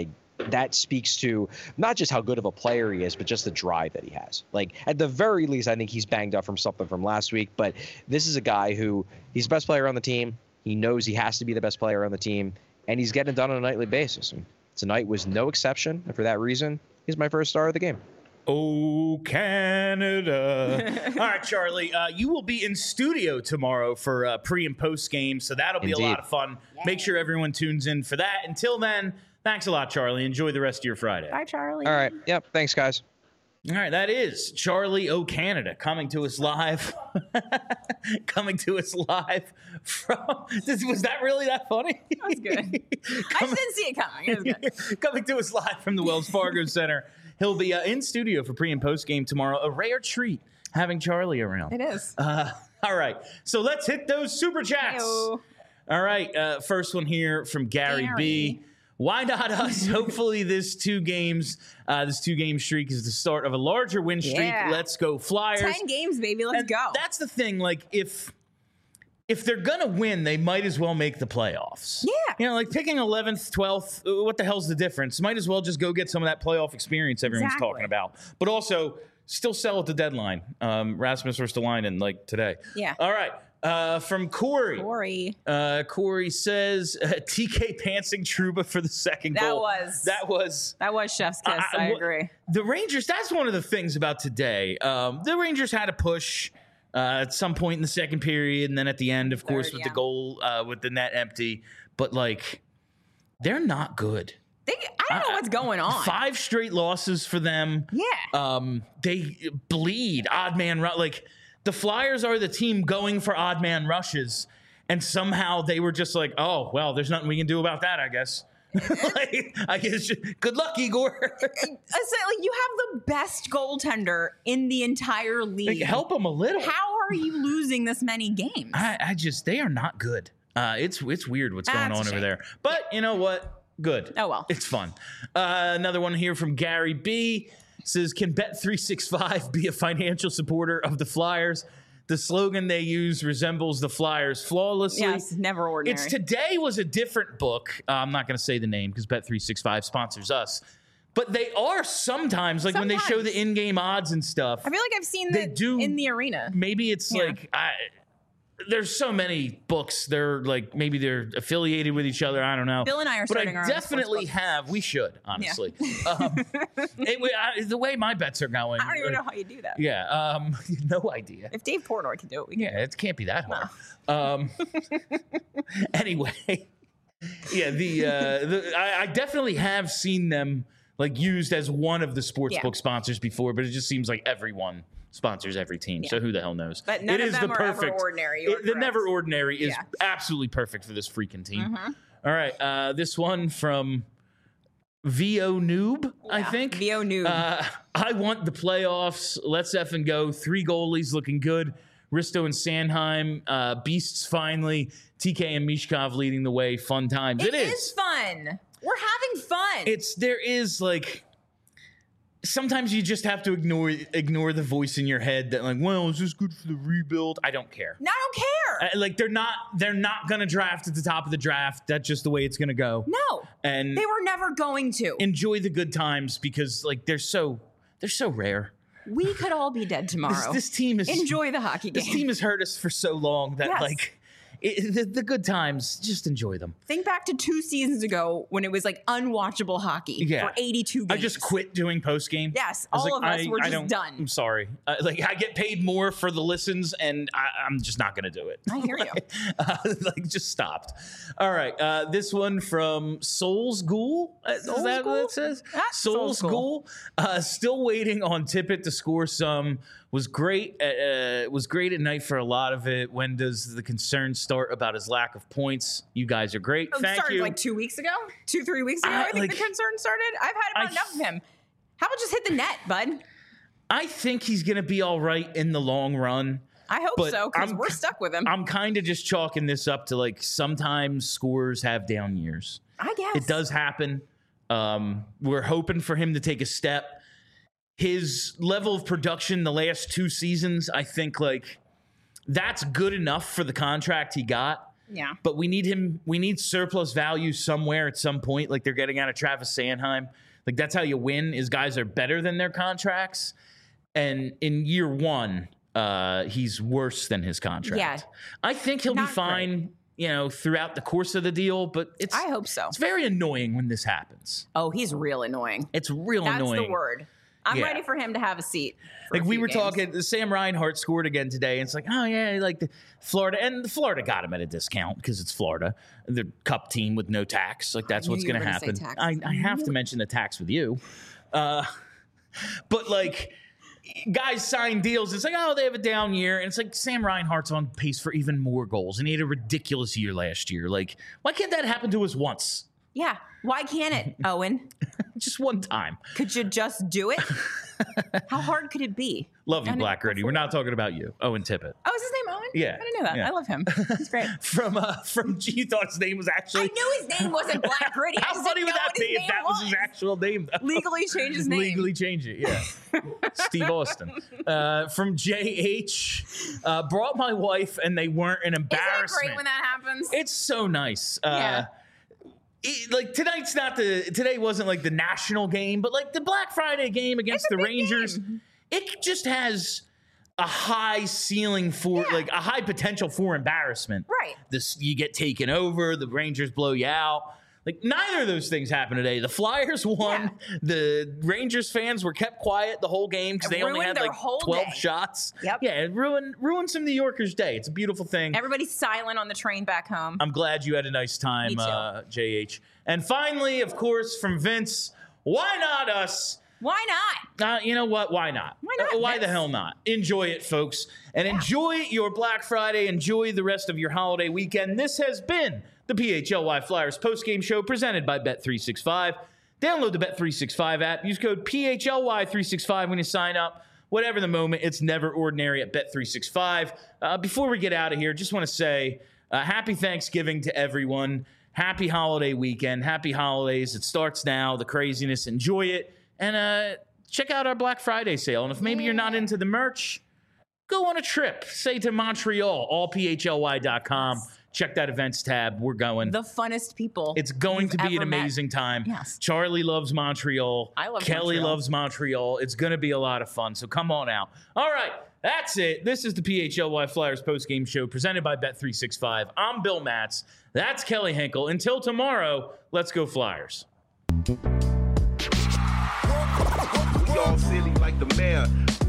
that speaks to not just how good of a player he is, but just the drive that he has. Like, at the very least, I think he's banged up from something from last week, but this is a guy who he's the best player on the team. He knows he has to be the best player on the team, and he's getting it done on a nightly basis. And tonight was no exception, and for that reason, he's my first star of the game. Oh, Canada. All right, Charlie, uh, you will be in studio tomorrow for uh, pre and post game, so that'll be Indeed. a lot of fun. Yeah. Make sure everyone tunes in for that. Until then, thanks a lot, Charlie. Enjoy the rest of your Friday. Bye, Charlie. All right. Yep. Thanks, guys. All right, that is Charlie O. Canada coming to us live. coming to us live from. This, was that really that funny? That was good. I just didn't see it coming. It was good. Coming to us live from the Wells Fargo Center. He'll be uh, in studio for pre and post game tomorrow. A rare treat having Charlie around. It is. Uh, all right, so let's hit those super chats. Heyo. All right, uh, first one here from Gary, Gary. B. Why not us? Hopefully, this two games, uh, this two game streak is the start of a larger win streak. Yeah. Let's go Flyers! Ten games, baby. Let's And go. That's the thing. Like if if they're gonna win, they might as well make the playoffs. Yeah. You know, like picking eleventh, twelfth. What the hell's the difference? Might as well just go get some of that playoff experience everyone's Exactly. talking about. But also, still sell at the deadline. Um, Rasmus Ristolainen, like today. Yeah. All right. Uh, from Corey. Corey. Uh, Corey says uh, T K pantsing Trouba for the second That goal. was- that was That was chef's kiss. I- I, I- agree. the Rangers. That's one of the things about today. Um, the Rangers had a push uh, at some point in the second period, and then at the end, of course, Third, with yeah. the goal uh, with the net empty. But like, they're not good. They, I don't know what's going on. Five straight losses for them. Yeah. Um, they bleed odd man ru- like the Flyers are the team going for odd man rushes, and somehow they were just like, oh well, there's nothing we can do about that, I guess. like, I guess good luck, Igor. I said, like, you have the best goaltender in the entire league. like, help them a little. How are you losing this many games? I, I just they are not good. Uh, it's it's weird what's Ah, going it's a on over shame. there. But you know what? Good. Oh, well. It's fun. Uh, another one here from Gary B. Says, can Bet three sixty-five be a financial supporter of the Flyers? The slogan they use resembles the Flyers flawlessly. Yes, never ordinary. It's today was a different book. Uh, I'm not going to say the name because Bet three sixty-five sponsors us. But they are sometimes, like when they show Sometimes. the in-game odds and stuff. I feel like I've seen They that do- in the arena. Maybe it's Yeah. like I. There's so many books. They're like maybe they're affiliated with each other. I don't know. Bill and I are but starting I our own definitely sportsbook. have. We should honestly. um, it- we- I- the way my bets are going. I don't even uh, know how you do that. Yeah. Um, no idea. If Dave Portnoy can do it, we can. Yeah, it can't be that hard. Um, anyway, yeah, the, uh, the I, I definitely have seen them like used as one of the sportsbook Yeah. sponsors before, but it just seems like everyone sponsors every team. So who the hell knows? But none it of is them the are ever perfect ordinary. You are it- the correct. never ordinary is Yeah. absolutely perfect for this freaking team. Mhm. All right, uh, this one from V O Noob, I Yeah, think. V O Noob. Uh, I want the playoffs. Let's effing go. Three goalies looking good. Risto and Sandheim. Uh, Beasts finally. T K and Mishkov leading the way. Fun times. It it is. is fun. We're having fun. It's there is like sometimes you just have to ignore ignore the voice in your head that like, well, is this good for the rebuild? I don't care. no, I don't care. Uh, like they're not they're not gonna draft at the top of the draft. That's just the way it's gonna go. no, And they were never going to. enjoy the good times because like they're so they're so rare. We could all be dead This, tomorrow. this team is Enjoy the hockey game. this team has hurt us for so long that Yes. like it, the, the good times, just enjoy them. Think back to two seasons ago when it was like unwatchable hockey Yeah. for eighty-two games. I just quit doing post game. Yes, all of us were just don't, done. I'm sorry. Uh, like I get paid more for the listens, and I, I'm just not going to do it. I hear you. uh, like just stopped. All right, uh, this one from Souls Ghoul. Uh, is Souls that what Ghoul? it says? Ah, Souls Souls Ghoul. Ghoul. Uh, still waiting on Tippett to score some. Was great. Uh, was great at night for a lot of it. When does the concern start about his lack of points? You guys are great. It Thank started you. like two weeks ago, two three weeks ago. I- I, think like- the concern started. I've had about I- enough of him. How about just hit the net, bud? I think he's going to be all right in the long run. I hope But so because I'm- we're stuck with him. I'm kind of just chalking this up to like sometimes scorers have down years. I guess It does happen. Um, we're hoping for him to take a step. His level of production the last two seasons, I think like that's good enough for the contract he got. Yeah. But we need him. We need surplus value somewhere at some point, like they're getting out of Travis Sanheim. Like that's how you win. Is guys are better than their contracts, and in year one, uh, he's worse than his contract. Yeah. I think he'll Not be fine. great. You know, throughout the course of the deal, but it's. I hope so. It's very annoying when this happens. Oh, he's real annoying. It's real That's annoying. the word. I'm Yeah. ready for him to have a seat. for Like a we few were games. talking, Sam Reinhart scored again today. And it's like, oh yeah, like the Florida, and Florida got him at a discount because it's Florida, the Cup team with no tax. Like that's I knew what's you going to were gonna say happen. taxes. I, I have to mention the tax with you, uh, but like guys sign deals. It's like, oh, they have a down year, and it's like Sam Reinhart's on pace for even more goals, and he had a ridiculous year last year. Like, why can't that happen to us once? Yeah. Why can't it, Owen? Just one time. Could you just do it? How hard could it be? Love you, I know, Black Gritty. We're not talking about you, Owen Tippett. Oh, is his name Owen? Yeah. I didn't know that. Yeah. I love him. He's great. From uh, from you thought his name was actually. I knew his name wasn't Black Gritty. I How just funny didn't would know that what be his if name that was his actual name? Though? Legally change his name. Legally change it, yeah. Steve Austin. Uh, from J H, uh, brought my wife and they weren't an Isn't it embarrassment. great when that happens? It's so nice. Uh, Yeah. it- like tonight's not the today wasn't like the national game, but like the Black Friday game against It's a the big Rangers, game. it just has a high ceiling for Yeah. like a high potential for embarrassment. Right. This you get taken over, the Rangers blow you out. Like neither of those things happened today. The Flyers won. The Rangers fans were kept quiet the whole game because It they only ruined had their like whole twelve day. shots. Yep. Yeah, it ruined ruined some New Yorkers' day. It's a beautiful thing. Everybody's silent on the train back home. I'm glad you had a nice time, Me too. uh, J H. And finally, of course, from Vince, why not us? Why not? Uh, you know what? Why not? Why not, Uh, why the Vince? hell not? Enjoy it, folks. And enjoy your Black Friday. Enjoy the rest of your holiday weekend. This has been the P H L Y Flyers postgame show presented by Bet three sixty-five. Download the Bet three sixty-five app. Use code P H L Y three sixty-five when you sign up. Whatever the moment, it's never ordinary at Bet three sixty-five. Uh, before we get out of here, just want to say uh, happy Thanksgiving to everyone. Happy holiday weekend. Happy holidays. It starts now. The craziness. Enjoy it. And uh, check out our Black Friday sale. And if maybe you're not into the merch, go on a trip. Say to Montreal, all P H L Y dot com. Check that events tab. We're going. The funnest people. It's going you've to be an ever met. amazing time. Yes. Charlie loves Montreal. I love Kelly Montreal. loves Montreal. It's going to be a lot of fun. So come on out. All right. That's it. This is the P H L Y Flyers postgame show presented by Bet three sixty-five. I'm Bill Matz. That's Kelly Hinkle. Until tomorrow, let's go Flyers. We all silly like the mayor.